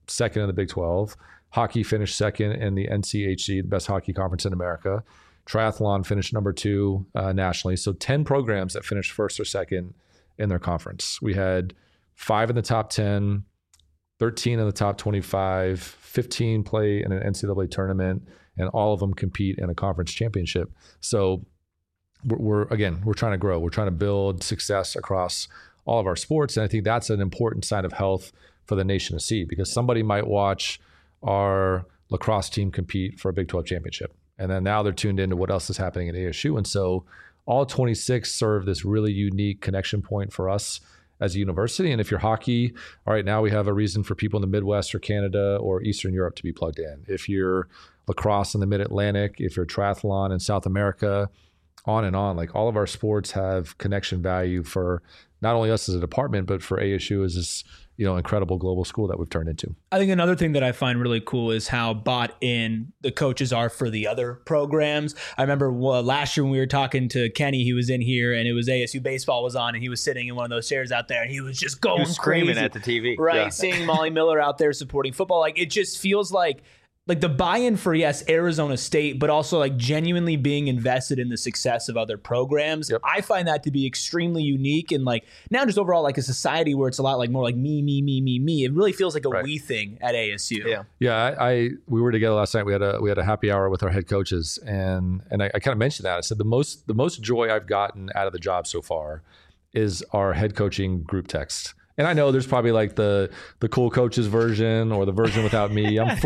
second in the Big 12. Hockey finished second in the NCHC, the best hockey conference in America. Triathlon finished number 2 nationally. So 10 programs that finished first or second in their conference. We had 5 in the top 10, 13 in the top 25, 15 play in an NCAA tournament, and all of them compete in a conference championship. So we're trying to grow. We're trying to build success across all of our sports. And I think that's an important sign of health for the nation to see, because somebody might watch our lacrosse team compete for a Big 12 championship. And then now they're tuned into what else is happening at ASU. And so all 26 serve this really unique connection point for us as a university. And if you're hockey, all right, now we have a reason for people in the Midwest or Canada or Eastern Europe to be plugged in. If you're lacrosse in the Mid-Atlantic, if you're triathlon in South America, on and on, like all of our sports have connection value for not only us as a department, but for ASU as this, incredible global school that we've turned into. I think another thing that I find really cool is how bought in the coaches are for the other programs. I remember last year when we were talking to Kenny, he was in here and it was ASU baseball was on and he was sitting in one of those chairs out there and he was just going screaming crazy at the TV. Right. Yeah. Seeing Molly Miller out there supporting football. Like it just feels like the buy-in for, yes, Arizona State, but also like genuinely being invested in the success of other programs. Yep. I find that to be extremely unique. And like now just overall like a society where it's a lot like more like me. It really feels like a we thing at ASU. Yeah. Yeah. We were together last night. We had a happy hour with our head coaches, and I kind of mentioned that. I said the most joy I've gotten out of the job so far is our head coaching group text. And I know there's probably like the cool coaches version or the version without me. I'm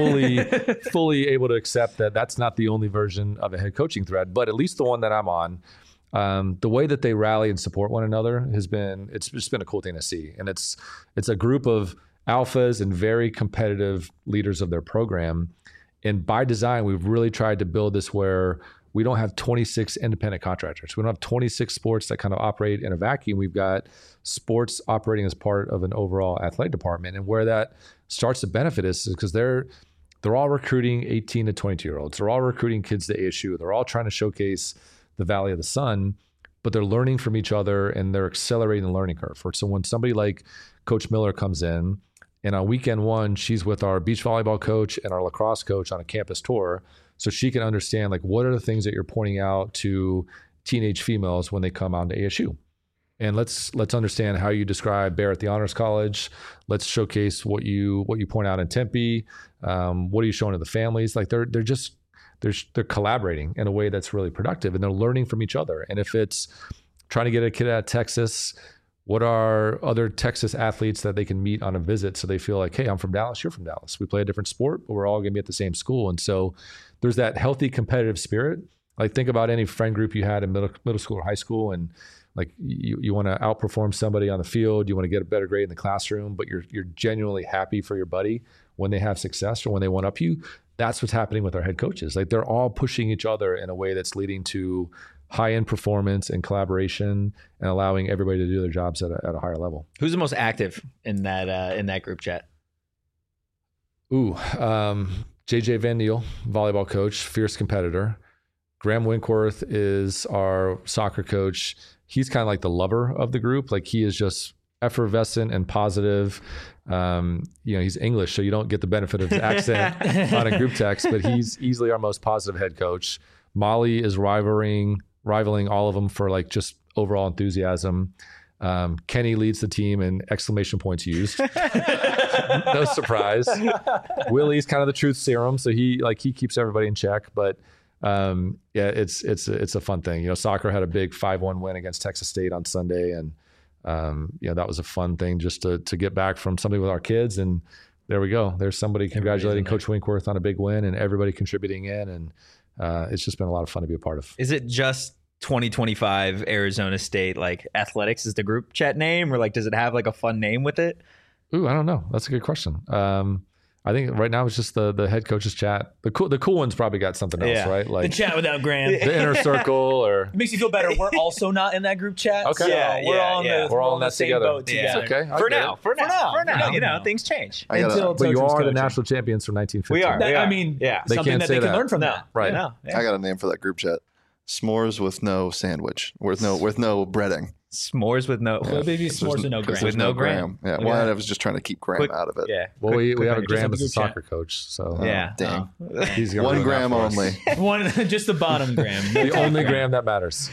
fully able to accept that that's not the only version of a head coaching thread, but at least the one that I'm on, the way that they rally and support one another it's just been a cool thing to see. And it's a group of alphas and very competitive leaders of their program. And by design, we've really tried to build this where we don't have 26 independent contractors. We don't have 26 sports that kind of operate in a vacuum. We've got sports operating as part of an overall athletic department. And where that starts to benefit us is because they're all recruiting 18 to 22-year-olds. They're all recruiting kids to ASU. They're all trying to showcase the Valley of the Sun, but they're learning from each other and they're accelerating the learning curve. So when somebody like Coach Miller comes in, and on weekend 1, she's with our beach volleyball coach and our lacrosse coach on a campus tour, so she can understand like what are the things that you're pointing out to teenage females when they come out to ASU. And let's understand how you describe Bear at the Honors College. Let's showcase what you point out in Tempe. What are you showing to the families? Like they're collaborating in a way that's really productive, and they're learning from each other. And if it's trying to get a kid out of Texas, what are other Texas athletes that they can meet on a visit so they feel like, hey, I'm from Dallas, you're from Dallas. We play a different sport, but we're all going to be at the same school. And so there's that healthy competitive spirit. Like think about any friend group you had in middle school or high school, and like you want to outperform somebody on the field, you want to get a better grade in the classroom, but you're genuinely happy for your buddy when they have success or when they one up you. That's what's happening with our head coaches. Like they're all pushing each other in a way that's leading to high-end performance and collaboration and allowing everybody to do their jobs at a higher level. Who's the most active in that group chat? JJ Van Niel, volleyball coach, fierce competitor. Graham Winkworth is our soccer coach. He's kind of like the lover of the group. Like he is just effervescent and positive. He's English, so you don't get the benefit of his accent on a group text, but he's easily our most positive head coach. Molly is rivaling all of them for like just overall enthusiasm. Kenny leads the team and exclamation points used. No surprise. Willie's kind of the truth serum, so he keeps everybody in check. But it's a fun thing. Soccer had a big 5-1 win against Texas State on Sunday, and that was a fun thing just to get back from something with our kids. And there we go. There's somebody congratulating Coach Winkworth on a big win, and everybody contributing in, and it's just been a lot of fun to be a part of. Is it just 2025 Arizona State like athletics is the group chat name, or like does it have like a fun name with it? Ooh, I don't know. That's a good question. I think right now it's just the head coaches chat. The cool ones probably got something else, right? Like the chat without Grant, the inner circle, or it makes you feel better. We're also not in that group chat. Okay, so we're all in that same together. boat together. Okay, For now, things change. But you are the national champions from 1950. We are. I mean, something that they can learn from that. Right. I got a name for that group chat. S'mores with no sandwich, with no breading. S'mores with no. Well, maybe It's s'mores just- with no 'cause graham. there's With no graham. Yeah, Look well, at that. I was just trying to keep Graham Quick- out of it. Yeah. Well, we have a just Graham have a as a group chat. soccer coach, so Yeah. Dang. he's gonna One ruin that gram for us. only. One, just the bottom graham. The only gram that matters.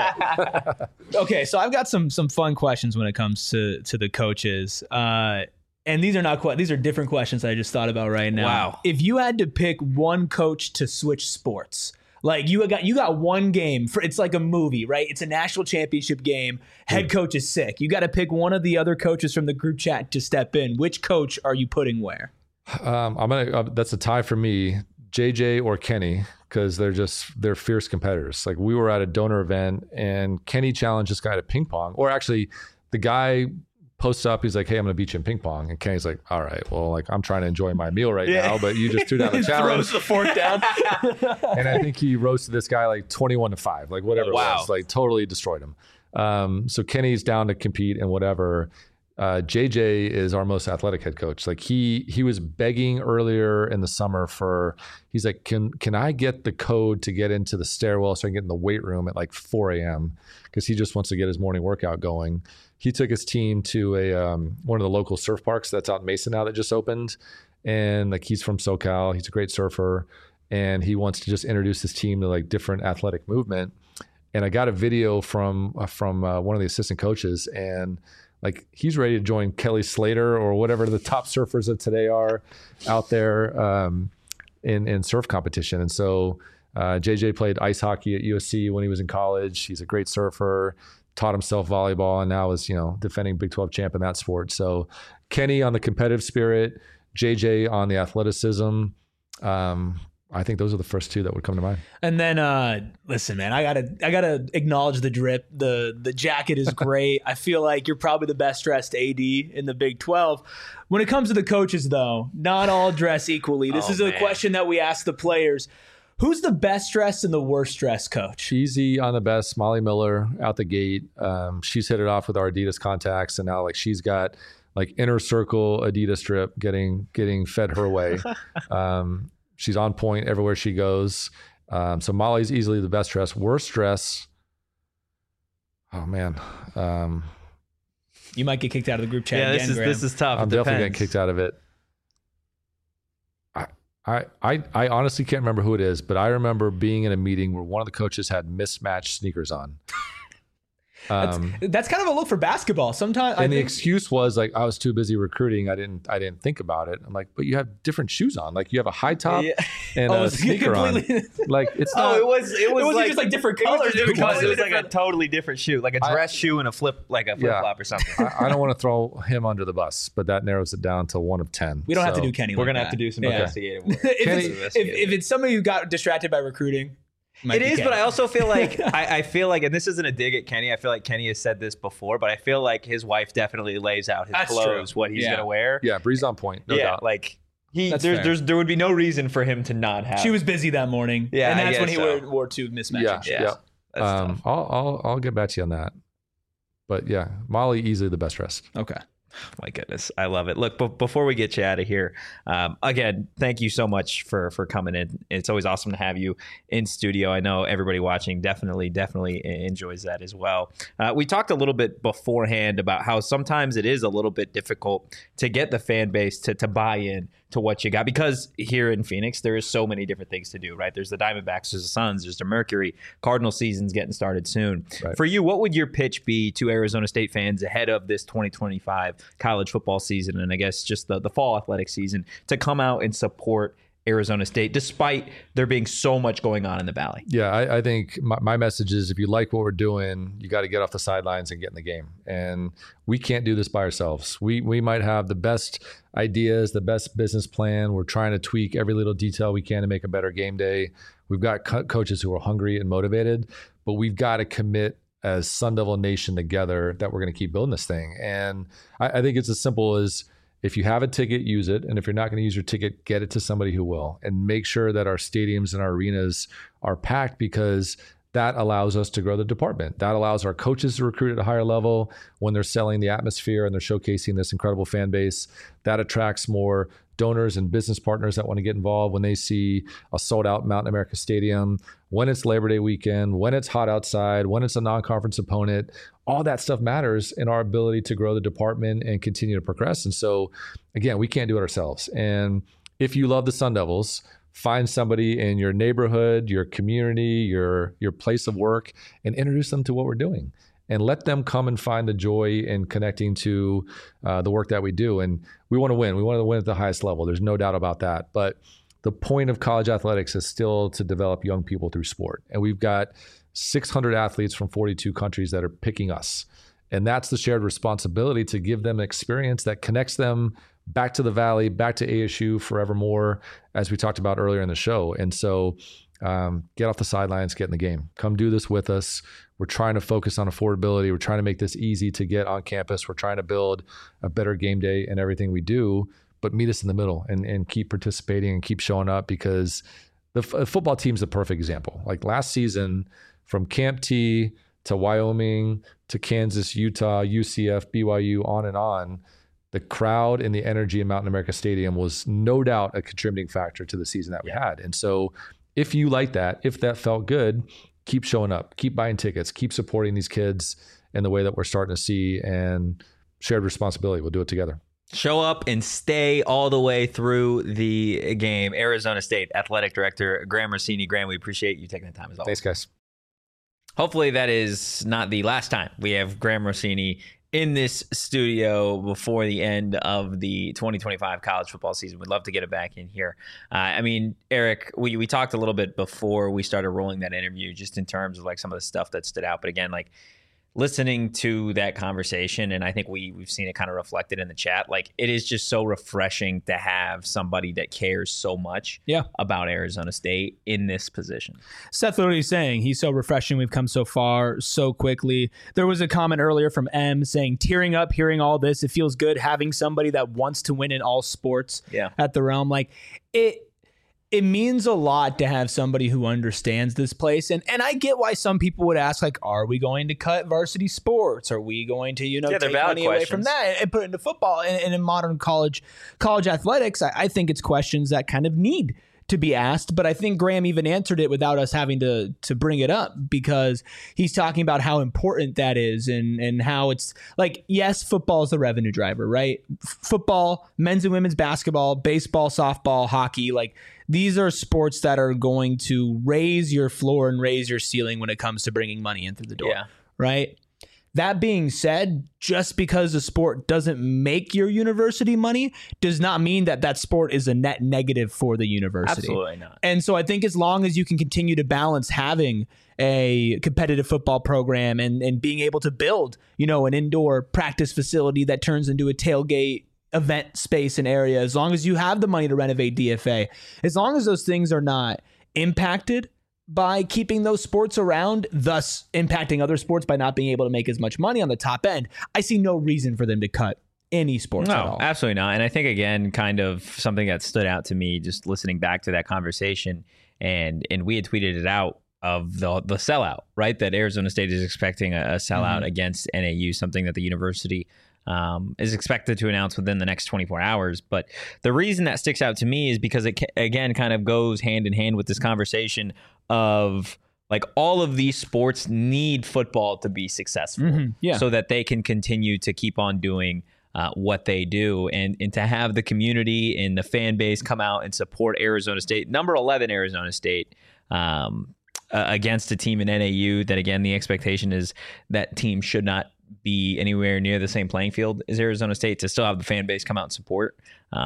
Okay, so I've got some fun questions when it comes to the coaches. And these are not these are different questions I just thought about right now. Wow. If you had to pick one coach to switch sports, like you got one game for, it's like a movie, right? It's a national championship game. Head coach is sick. You got to pick one of the other coaches from the group chat to step in. Which coach are you putting where? That's a tie for me, JJ or Kenny, because they're fierce competitors. Like we were at a donor event and Kenny challenged this guy to ping pong, or actually the guy posts up, he's like, hey, I'm gonna beat you in ping pong. And Kenny's like, all right, well, like I'm trying to enjoy my meal right now, but you just threw down the challenge. Throws the fork down. And I think he roasted this guy like 21-5, like whatever it was, like totally destroyed him. So Kenny's down to compete and whatever. JJ is our most athletic head coach. Like he was begging earlier in the summer he's like, can I get the code to get into the stairwell so I can get in the weight room at like 4 a.m. because he just wants to get his morning workout going. He took his team to one of the local surf parks that's out in Mason now that just opened. And like he's from SoCal, he's a great surfer, and he wants to just introduce his team to like different athletic movement. And I got a video from one of the assistant coaches, and like he's ready to join Kelly Slater or whatever the top surfers of today are out there in surf competition. And so JJ played ice hockey at USC when he was in college. He's a great surfer, taught himself volleyball, and now is, defending Big 12 champ in that sport. So Kenny on the competitive spirit, JJ on the athleticism. I think those are the first two that would come to mind. And then, listen, man, I gotta acknowledge the drip. The jacket is great. I feel like you're probably the best dressed AD in the Big 12. When it comes to the coaches, though, not all dress equally. This is a question that we ask the players. Who's the best dressed and the worst dressed coach? Easy on the best, Molly Miller out the gate. She's hit it off with our Adidas contacts, and now like she's got like inner circle Adidas drip getting fed her way. She's on point everywhere she goes. So Molly's easily the best dressed. Worst dress. Oh man. You might get kicked out of the group chat again, Graham. This is tough. I'm definitely getting kicked out of it. I honestly can't remember who it is, but I remember being in a meeting where one of the coaches had mismatched sneakers on. That's kind of a look for basketball. Sometimes, and the excuse was like, I was too busy recruiting. I didn't think about it. I'm like, but you have different shoes on. Like you have a high top and a sneaker on. Like it's not. It wasn't like, just like different colors. It was like a totally different shoe, like a dress shoe and a flip flop or something. I don't want to throw him under the bus, but that narrows it down to 1 of 10. We don't have to do Kenny. We're like gonna that. have to do some investigative work. If it's somebody who got distracted by recruiting. It is, but I also feel like I feel like, and this isn't a dig at Kenny. I feel like Kenny has said this before, but I feel like his wife definitely lays out his clothes, what he's gonna wear. Yeah, Bree's on point. No doubt. Like there would be no reason for him to not have. She was busy that morning. Yeah, and that's when he wore two mismatching shoes. Yeah. That's tough. I'll get back to you on that. But yeah, Molly easily the best dressed. Okay. My goodness, I love it. Look, before we get you out of here, again, thank you so much for coming in. It's always awesome to have you in studio. I know everybody watching definitely enjoys that as well. We talked a little bit beforehand about how sometimes it is a little bit difficult to get the fan base to buy in to what you got, because here in Phoenix there is so many different things to do, right? There's the Diamondbacks, there's the Suns, there's the Mercury. Cardinal season's getting started soon. Right. For you, what would your pitch be to Arizona State fans ahead of this 2025 college football season, and I guess just the fall athletic season, to come out and support Arizona State despite there being so much going on in the Valley? Yeah, I think my message is, if you like what we're doing, you got to get off the sidelines and get in the game. And we can't do this by ourselves. We might have the best ideas, the best business plan. We're trying to tweak every little detail we can to make a better game day. We've got coaches who are hungry and motivated, but we've got to commit as Sun Devil Nation together that we're going to keep building this thing. And I think it's as simple as, if you have a ticket, use it. And if you're not going to use your ticket, get it to somebody who will. And make sure that our stadiums and our arenas are packed, because that allows us to grow the department. That allows our coaches to recruit at a higher level when they're selling the atmosphere and they're showcasing this incredible fan base. That attracts more donors and business partners that want to get involved, when they see a sold out Mountain America Stadium, when it's Labor Day weekend, when it's hot outside, when it's a non-conference opponent, all that stuff matters in our ability to grow the department and continue to progress. And so again, we can't do it ourselves. And if you love the Sun Devils, find somebody in your neighborhood, your community, your place of work, and introduce them to what we're doing. And let them come and find the joy in connecting to the work that we do. And we want to win. We want to win at the highest level. There's no doubt about that. But the point of college athletics is still to develop young people through sport. And we've got 600 athletes from 42 countries that are picking us. And that's the shared responsibility to give them an experience that connects them back to the Valley, back to ASU forevermore, as we talked about earlier in the show. And so get off the sidelines, get in the game. Come do this with us. We're trying to focus on affordability. We're trying to make this easy to get on campus. We're trying to build a better game day in everything we do, but meet us in the middle and keep participating and keep showing up, because the football team's the perfect example. Like last season, from Camp T to Wyoming to Kansas, Utah, UCF, BYU, on and on, the crowd and the energy in Mountain America Stadium was no doubt a contributing factor to the season that we had. And so if you like that, if that felt good, keep showing up, keep buying tickets, keep supporting these kids in the way that we're starting to see, and shared responsibility. We'll do it together. Show up and stay all the way through the game. Arizona State Athletic Director Graham Rossini. Graham, we appreciate you taking the time as always. Thanks, guys. Hopefully that is not the last time we have Graham Rossini in this studio before the end of the 2025 college football season. We'd love to get it back in here. I mean, Eric, we talked a little bit before we started rolling that interview, just in terms of like some of the stuff that stood out. But again, like listening to that conversation, and I think we've seen it kind of reflected in the chat, like it is just so refreshing to have somebody that cares so much about Arizona State in this position. Seth literally saying he's so refreshing. We've come so far so quickly. There was a comment earlier from M saying, tearing up hearing all this. It feels good having somebody that wants to win in all sports at the Realm. Like it means a lot to have somebody who understands this place. And I get why some people would ask, like, are we going to cut varsity sports? Are we going to, take money away from that and put it into football? And in modern college athletics, I think it's questions that kind of need to be asked. But I think Graham even answered it without us having to bring it up, because he's talking about how important that is and how it's like, yes, football is the revenue driver, right? Football, men's and women's basketball, baseball, softball, hockey, like these are sports that are going to raise your floor and raise your ceiling when it comes to bringing money in through the door, right? That being said, just because a sport doesn't make your university money does not mean that that sport is a net negative for the university. Absolutely not. And so I think as long as you can continue to balance having a competitive football program and being able to build, an indoor practice facility that turns into a tailgate event space and area, as long as you have the money to renovate DFA, as long as those things are not impacted by keeping those sports around, thus impacting other sports by not being able to make as much money on the top end, I see no reason for them to cut any sports at all. Absolutely not. And I think, again, kind of something that stood out to me just listening back to that conversation, and we had tweeted it out, of the sellout, right? That Arizona State is expecting a sellout against NAU, something that the university is expected to announce within the next 24 hours. But the reason that sticks out to me is because it, again, kind of goes hand in hand with this conversation of like all of these sports need football to be successful so that they can continue to keep on doing what they do, and to have the community and the fan base come out and support Arizona State, number 11 Arizona State, against a team in NAU that, again, the expectation is that team should not be anywhere near the same playing field as Arizona State, to still have the fan base come out and support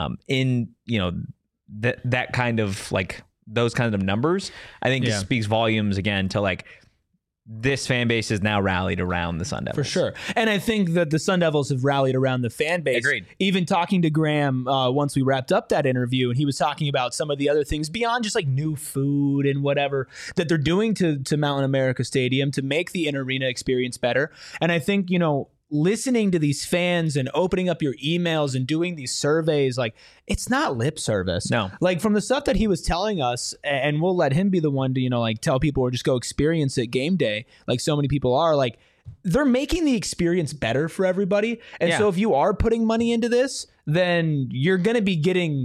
that kind of like those kinds of numbers, I think just speaks volumes again to like this fan base is now rallied around the Sun Devils. For sure. And I think that the Sun Devils have rallied around the fan base. Agreed. Even talking to Graham once we wrapped up that interview, and he was talking about some of the other things beyond just like new food and whatever that they're doing to Mountain America Stadium to make the in-arena experience better. And I think, listening to these fans and opening up your emails and doing these surveys, like it's not lip service. No. Like from the stuff that he was telling us, and we'll let him be the one to, tell people or just go experience it game day, like so many people are, like they're making the experience better for everybody. And so if you are putting money into this, then you're going to be getting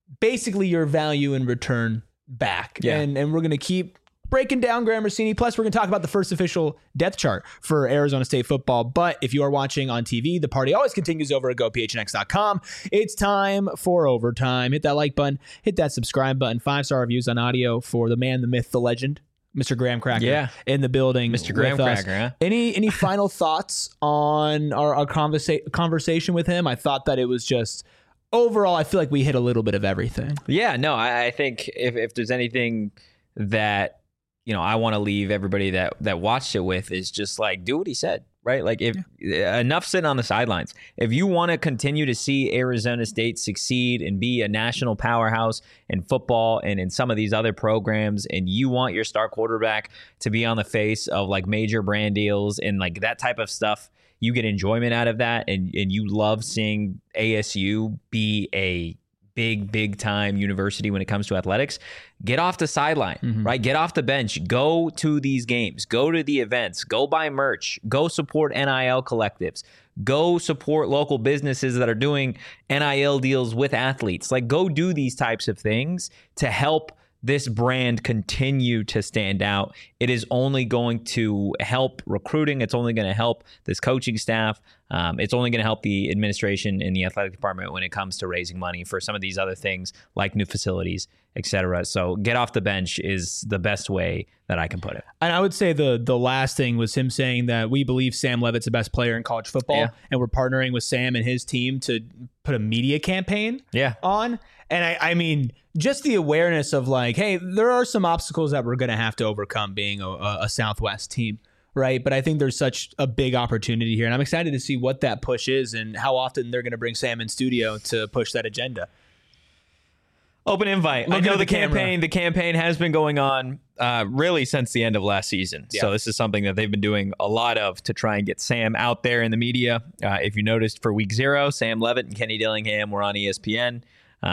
basically your value in return back. Yeah. And we're going to keep breaking down Graham Rossini. Plus, we're going to talk about the first official depth chart for Arizona State football. But if you are watching on TV, the party always continues over at GoPHNX.com. It's time for overtime. Hit that like button. Hit that subscribe button. 5-star reviews on audio for the man, the myth, the legend, Mr. Graham Cracker in the building. Mr. Graham Cracker, huh? Any final thoughts on our conversation with him? I thought that it was just... Overall, I feel like we hit a little bit of everything. Yeah, no, I think if there's anything that, I want to leave everybody that watched it with is just like, do what he said, right? Like enough sitting on the sidelines. If you want to continue to see Arizona State succeed and be a national powerhouse in football and in some of these other programs, and you want your star quarterback to be on the face of like major brand deals and like that type of stuff, you get enjoyment out of that, and you love seeing ASU be a big time university when it comes to athletics, get off the sideline, right? Get off the bench, go to these games, go to the events, go buy merch, go support NIL collectives, go support local businesses that are doing NIL deals with athletes. Like, go do these types of things to help this brand continue to stand out. It is only going to help recruiting. It's only going to help this coaching staff. It's only going to help the administration in the athletic department when it comes to raising money for some of these other things like new facilities, etc. So get off the bench is the best way that I can put it. And I would say the last thing was him saying that we believe Sam Leavitt's the best player in college football, and we're partnering with Sam and his team to put a media campaign on. And I mean, just the awareness of like, hey, there are some obstacles that we're going to have to overcome being a Southwest team, right? But I think there's such a big opportunity here. And I'm excited to see what that push is and how often they're going to bring Sam in studio to push that agenda. Open invite. I know the campaign has been going on really since the end of last season. Yeah. So this is something that they've been doing a lot of to try and get Sam out there in the media. If you noticed for week 0, Sam Leavitt and Kenny Dillingham were on ESPN.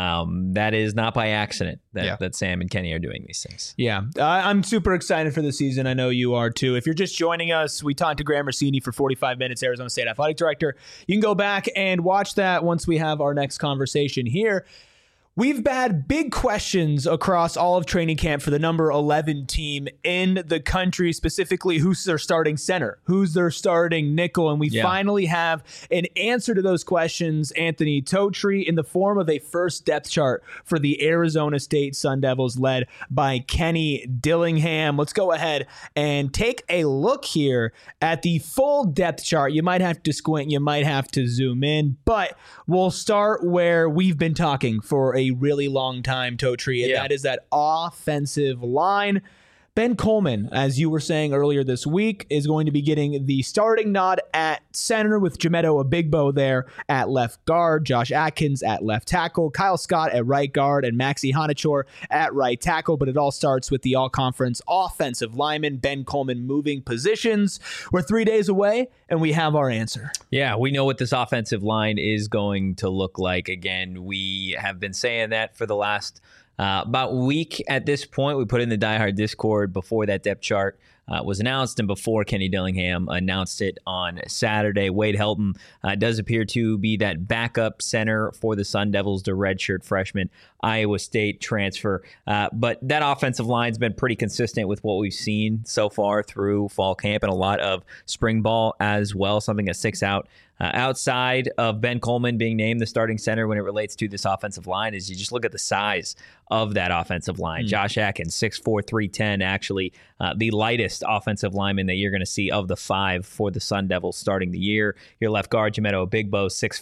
That is not by accident that Sam and Kenny are doing these things. Yeah, I'm super excited for the season. I know you are too. If you're just joining us, we talked to Graham Rossini for 45 minutes, Arizona State Athletic Director. You can go back and watch that once we have our next conversation here. We've had big questions across all of training camp for the number 11 team in the country, specifically who's their starting center, who's their starting nickel. And we finally have an answer to those questions, Anthony Totri, in the form of a first depth chart for the Arizona State Sun Devils led by Kenny Dillingham. Let's go ahead and take a look here at the full depth chart. You might have to squint, you might have to zoom in, but we'll start where we've been talking for a really long time, Totri, and that is that offensive line. Ben Coleman, as you were saying earlier this week, is going to be getting the starting nod at center with Jamedo Abigbo there at left guard, Josh Atkins at left tackle, Kyle Scott at right guard, and Maxi Hanachor at right tackle. But it all starts with the all-conference offensive lineman, Ben Coleman, moving positions. We're 3 days away, and we have our answer. Yeah, we know what this offensive line is going to look like. Again, we have been saying that for the last about a week at this point. We put in the Die Hard Discord before that depth chart was announced and before Kenny Dillingham announced it on Saturday. Wade Helton does appear to be that backup center for the Sun Devils, the redshirt freshman, Iowa State transfer. But that offensive line's been pretty consistent with what we've seen so far through fall camp and a lot of spring ball as well, something that sticks out. Outside of Ben Coleman being named the starting center when it relates to this offensive line is you just look at the size of that offensive line. Josh Atkins, 6'4", 310, actually the lightest offensive lineman that you're going to see of the 5 for the Sun Devils starting the year. Your left guard, Jamedo Abigbo, 6'4",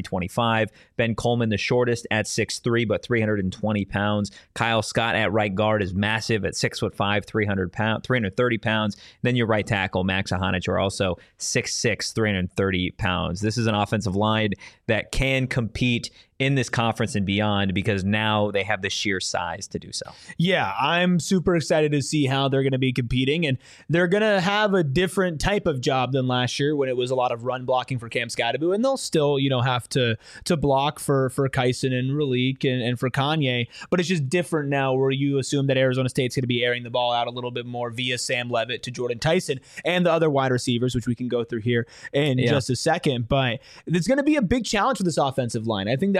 325. Ben Coleman, the shortest at 6'3", but 320 pounds. Kyle Scott at right guard is massive at 6'5", 330 pounds. Then your right tackle, Max Hanachor, also 6'6", 330 pounds. This is an offensive line that can compete in this conference and beyond because now they have the sheer size to do so. Yeah, I'm super excited to see how they're going to be competing, and they're going to have a different type of job than last year when it was a lot of run blocking for Cam Scadaboo, and they'll still, have to block for Kyson and Raleek and for Kanye, but it's just different now where you assume that Arizona State's going to be airing the ball out a little bit more via Sam Leavitt to Jordan Tyson and the other wide receivers, which we can go through here in just a second, but it's going to be a big challenge for this offensive line. I think that's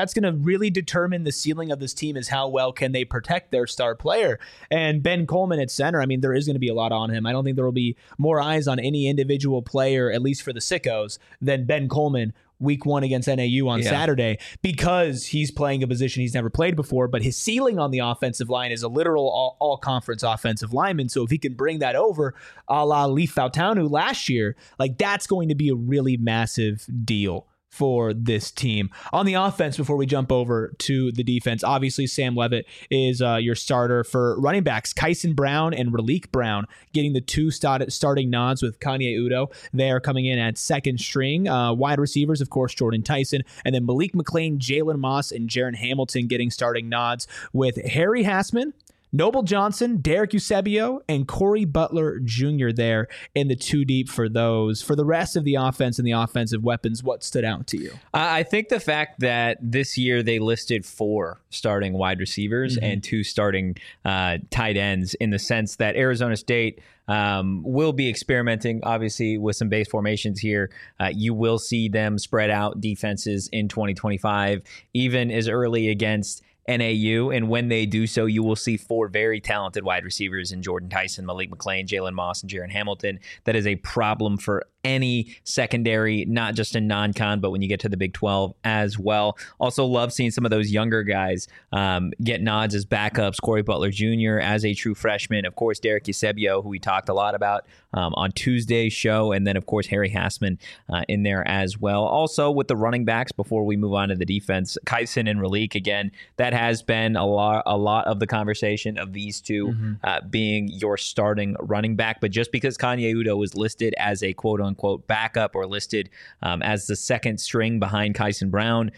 that's going to really determine the ceiling of this team, is how well can they protect their star player. And Ben Coleman at center, I mean, there is going to be a lot on him. I don't think there will be more eyes on any individual player, at least for the sickos, than Ben Coleman week 1 against NAU on Saturday, because he's playing a position he's never played before, but his ceiling on the offensive line is a literal all-conference offensive lineman. So if he can bring that over a la Leaf Fautanu last year, like, that's going to be a really massive deal for this team. On the offense, before we jump over to the defense, obviously Sam Levitt is your starter. For running backs, Kyson Brown and Raleek Brown getting the 2 starting nods with Kanye Udo. They are coming in at second string. Wide receivers, of course, Jordan Tyson, and then Malik McClain, Jalen Moss, and Jaron Hamilton getting starting nods with Harry Hassman, Noble Johnson, Derek Eusebio, and Corey Butler Jr. there in the 2 deep for those. For the rest of the offense and the offensive weapons, what stood out to you? I think the fact that this year they listed 4 starting wide receivers and 2 starting tight ends, in the sense that Arizona State will be experimenting, obviously, with some base formations here. You will see them spread out defenses in 2025, even as early against NAU, and when they do so, you will see 4 very talented wide receivers in Jordan Tyson, Malik McClain, Jalen Moss, and Jaron Hamilton. That is a problem for any secondary, not just in non-con, but when you get to the Big 12 as well. Also love seeing some of those younger guys get nods as backups. Corey Butler Jr. as a true freshman. Of course, Derek Eusebio, who we talked a lot about on Tuesday's show. And then, of course, Harry Hassman in there as well. Also, with the running backs, before we move on to the defense, Kyson and Raleek, again, that has been a lot of the conversation of these two being your starting running back. But just because Kanye Udo was listed as a quote-unquote backup, or listed as the second string behind Kyson Brown,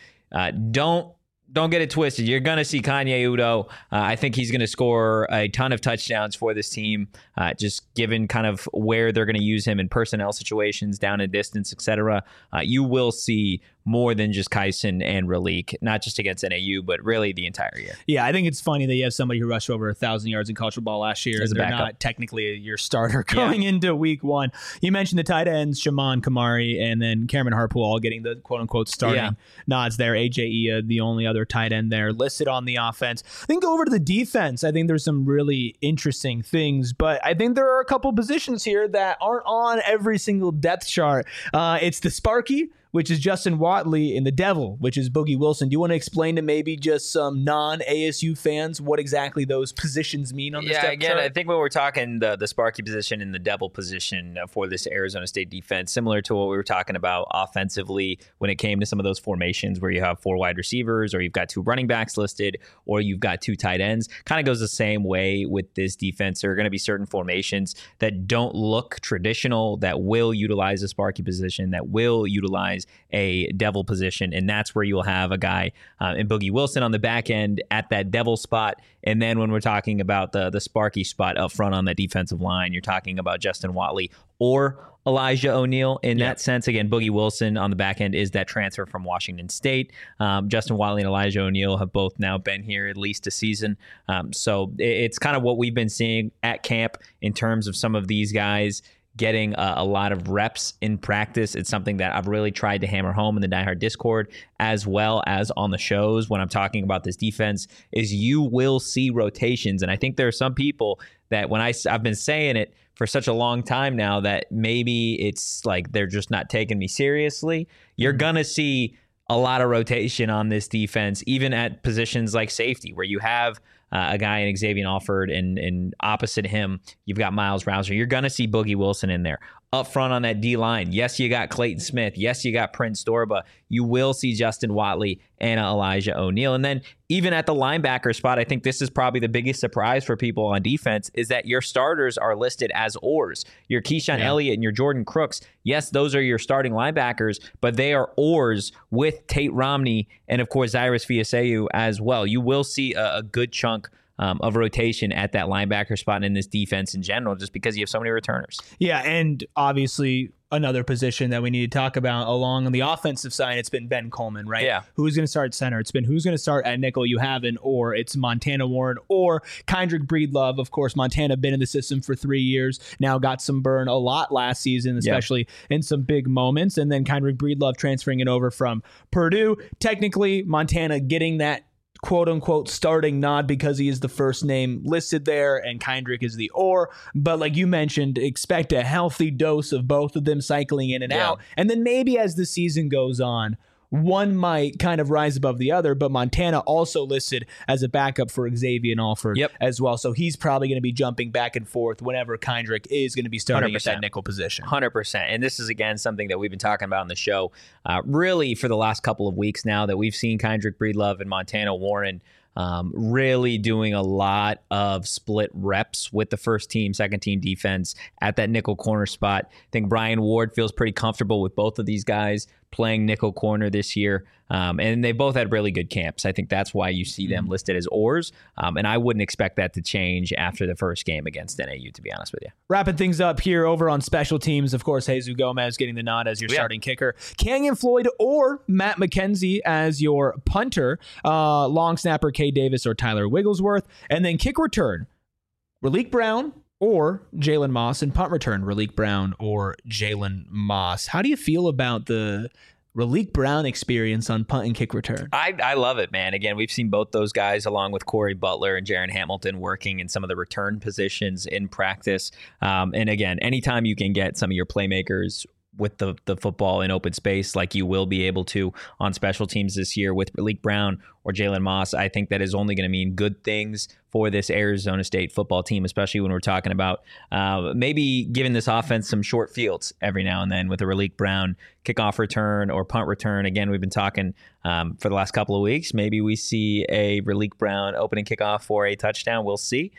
don't get it twisted. You're going to see Kanye Udo. I think he's going to score a ton of touchdowns for this team, just given kind of where they're going to use him in personnel situations, down and distance, etc. You will see more than just Kyson and Raleek, not just against NAU, but really the entire year. Yeah, I think it's funny that you have somebody who rushed over 1,000 yards in college football last year, as a they're backup. not technically your starter going into week 1. You mentioned the tight ends, Shaman Kamari and then Cameron Harpool, all getting the quote-unquote starting nods there. AJ Ia, the only other tight end there listed on the offense. Then go over to the defense. I think there's some really interesting things, but I think there are a couple positions here that aren't on every single depth chart. It's the Sparky, which is Justin Watley, and the Devil, which is Boogie Wilson. Do you want to explain to maybe just some non-ASU fans what exactly those positions mean on this depth chart? I think when we're talking the Sparky position and the Devil position for this Arizona State defense, similar to what we were talking about offensively when it came to some of those formations where you have 4 wide receivers, or you've got 2 running backs listed, or you've got 2 tight ends, kind of goes the same way with this defense. There are going to be certain formations that don't look traditional, that will utilize a Sparky position, that will utilize a Devil position, and that's where you'll have a guy in Boogie Wilson on the back end at that Devil spot. And then when we're talking about the Sparky spot up front on the defensive line, you're talking about Justin Watley or Elijah O'Neal in that sense. Again, Boogie Wilson on the back end is that transfer from Washington State. Justin Watley and Elijah O'Neal have both now been here at least a season. So it's kind of what we've been seeing at camp in terms of some of these guys getting a lot of reps in practice. It's something that I've really tried to hammer home in the Die Hard Discord, as well as on the shows when I'm talking about this defense, is you will see rotations. And I think there are some people that when I've been saying it for such a long time now that maybe it's like they're just not taking me seriously. You're going to see a lot of rotation on this defense, even at positions like safety, where you have a guy in Xavier Alford, and opposite him, you've got Miles Rouser. You're going to see Boogie Wilson in there. Up front on that D-line, yes, you got Clayton Smith. Yes, you got Prince Dorba. You will see Justin Watley and Elijah O'Neal. And then even at the linebacker spot, I think this is probably the biggest surprise for people on defense, is that your starters are listed as oars. Your Keyshawn Elliott and your Jordan Crooks, yes, those are your starting linebackers, but they are oars with Tate Romney and, of course, Cyrus Fiaseu as well. You will see a good chunk of rotation at that linebacker spot and in this defense in general, just because you have so many returners. Yeah, and obviously another position that we need to talk about along on the offensive side, it's been Ben Coleman, right? Yeah. Who's going to start center? It's been who's going to start at nickel. You haven't, or it's Montana Warren or Kendrick Breedlove. Of course, Montana been in the system for 3 years now, got some burn a lot last season, especially in some big moments. And then Kendrick Breedlove transferring it over from Purdue. Technically, Montana getting that quote unquote starting nod because he is the first name listed there and Kendrick is the or. But like you mentioned, expect a healthy dose of both of them cycling in and out. And then maybe as the season goes on, one might kind of rise above the other, but Montana also listed as a backup for Xavier Alford as well. So he's probably going to be jumping back and forth whenever Kendrick is going to be starting 100%. at that nickel position. 100%. And this is, again, something that we've been talking about on the show really for the last couple of weeks now, that we've seen Kendrick Breedlove and Montana Warren really doing a lot of split reps with the first team, second team defense at that nickel corner spot. I think Brian Ward feels pretty comfortable with both of these guys playing nickel corner this year. And they both had really good camps. I think that's why you see them listed as oars. And I wouldn't expect that to change after the first game against NAU, to be honest with you. Wrapping things up here over on special teams, of course, Jesus Gomez getting the nod as your starting kicker. Kenyon Floyd or Matt McKenzie as your punter. Long snapper Kay Davis or Tyler Wigglesworth. And then kick return, Raleek Brown or Jalen Moss, and punt return, Raleek Brown or Jalen Moss. How do you feel about the Raleek Brown experience on punt and kick return? I love it, man. Again, we've seen both those guys along with Corey Butler and Jaron Hamilton working in some of the return positions in practice. And again, anytime you can get some of your playmakers with the football in open space like you will be able to on special teams this year with Raleek Brown or Jalen Moss, I think that is only going to mean good things for this Arizona State football team, especially when we're talking about maybe giving this offense some short fields every now and then with a Raleek Brown kickoff return or punt return. Again, we've been talking for the last couple of weeks. Maybe we see a Raleek Brown opening kickoff for a touchdown. We'll see.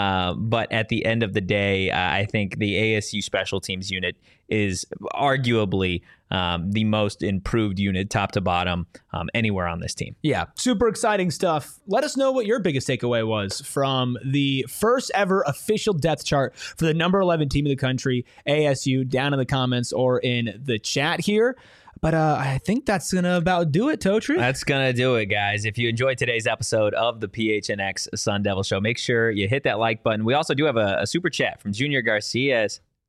But at the end of the day, I think the ASU special teams unit is arguably the most improved unit, top to bottom, anywhere on this team. Yeah, super exciting stuff. Let us know what your biggest takeaway was from the first ever official depth chart for the number 11 team in the country, ASU, down in the comments or in the chat here. But I think that's going to about do it, Totri. That's going to do it, guys. If you enjoyed today's episode of the PHNX Sun Devil Show, make sure you hit that like button. We also do have a super chat from Junior Garcia,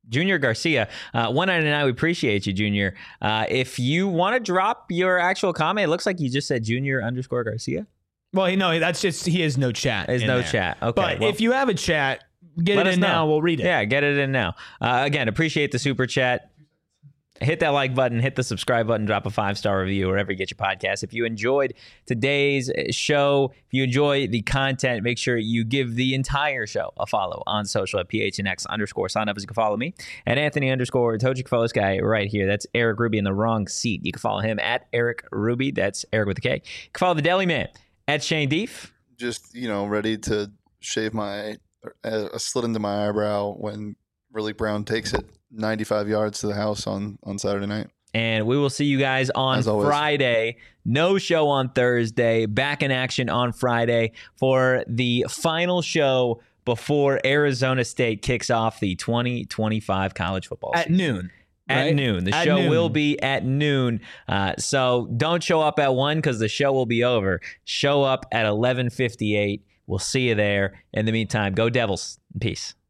$1.99. We appreciate you, Junior. If you want to drop your actual comment, it looks like you just said Junior_Garcia. Well, no, that's just he has no chat. There's no chat. Okay. But if you have a chat, get it in now. We'll read it. Yeah, get it in now. Again, appreciate the super chat. Hit that like button, hit the subscribe button, drop a 5-star review wherever you get your podcast. If you enjoyed today's show, if you enjoy the content, make sure you give the entire show a follow on social at PHNX_sign up. As you can follow me at Anthony_Toji guy right here. That's Eric Ruby in the wrong seat. You can follow him at Eric Ruby. That's Eric with a K. You can follow the Deli Man at Shane Deef. Just, ready to shave a slit into my eyebrow when Raleek Brown takes it 95 yards to the house on Saturday night. And we will see you guys on Friday. No show on Thursday. Back in action on Friday for the final show before Arizona State kicks off the 2025 college football season. At noon. At right? noon. The at show noon. will be at noon. So don't show up at 1 because the show will be over. Show up at 11:58. We'll see you there. In the meantime, go Devils. Peace.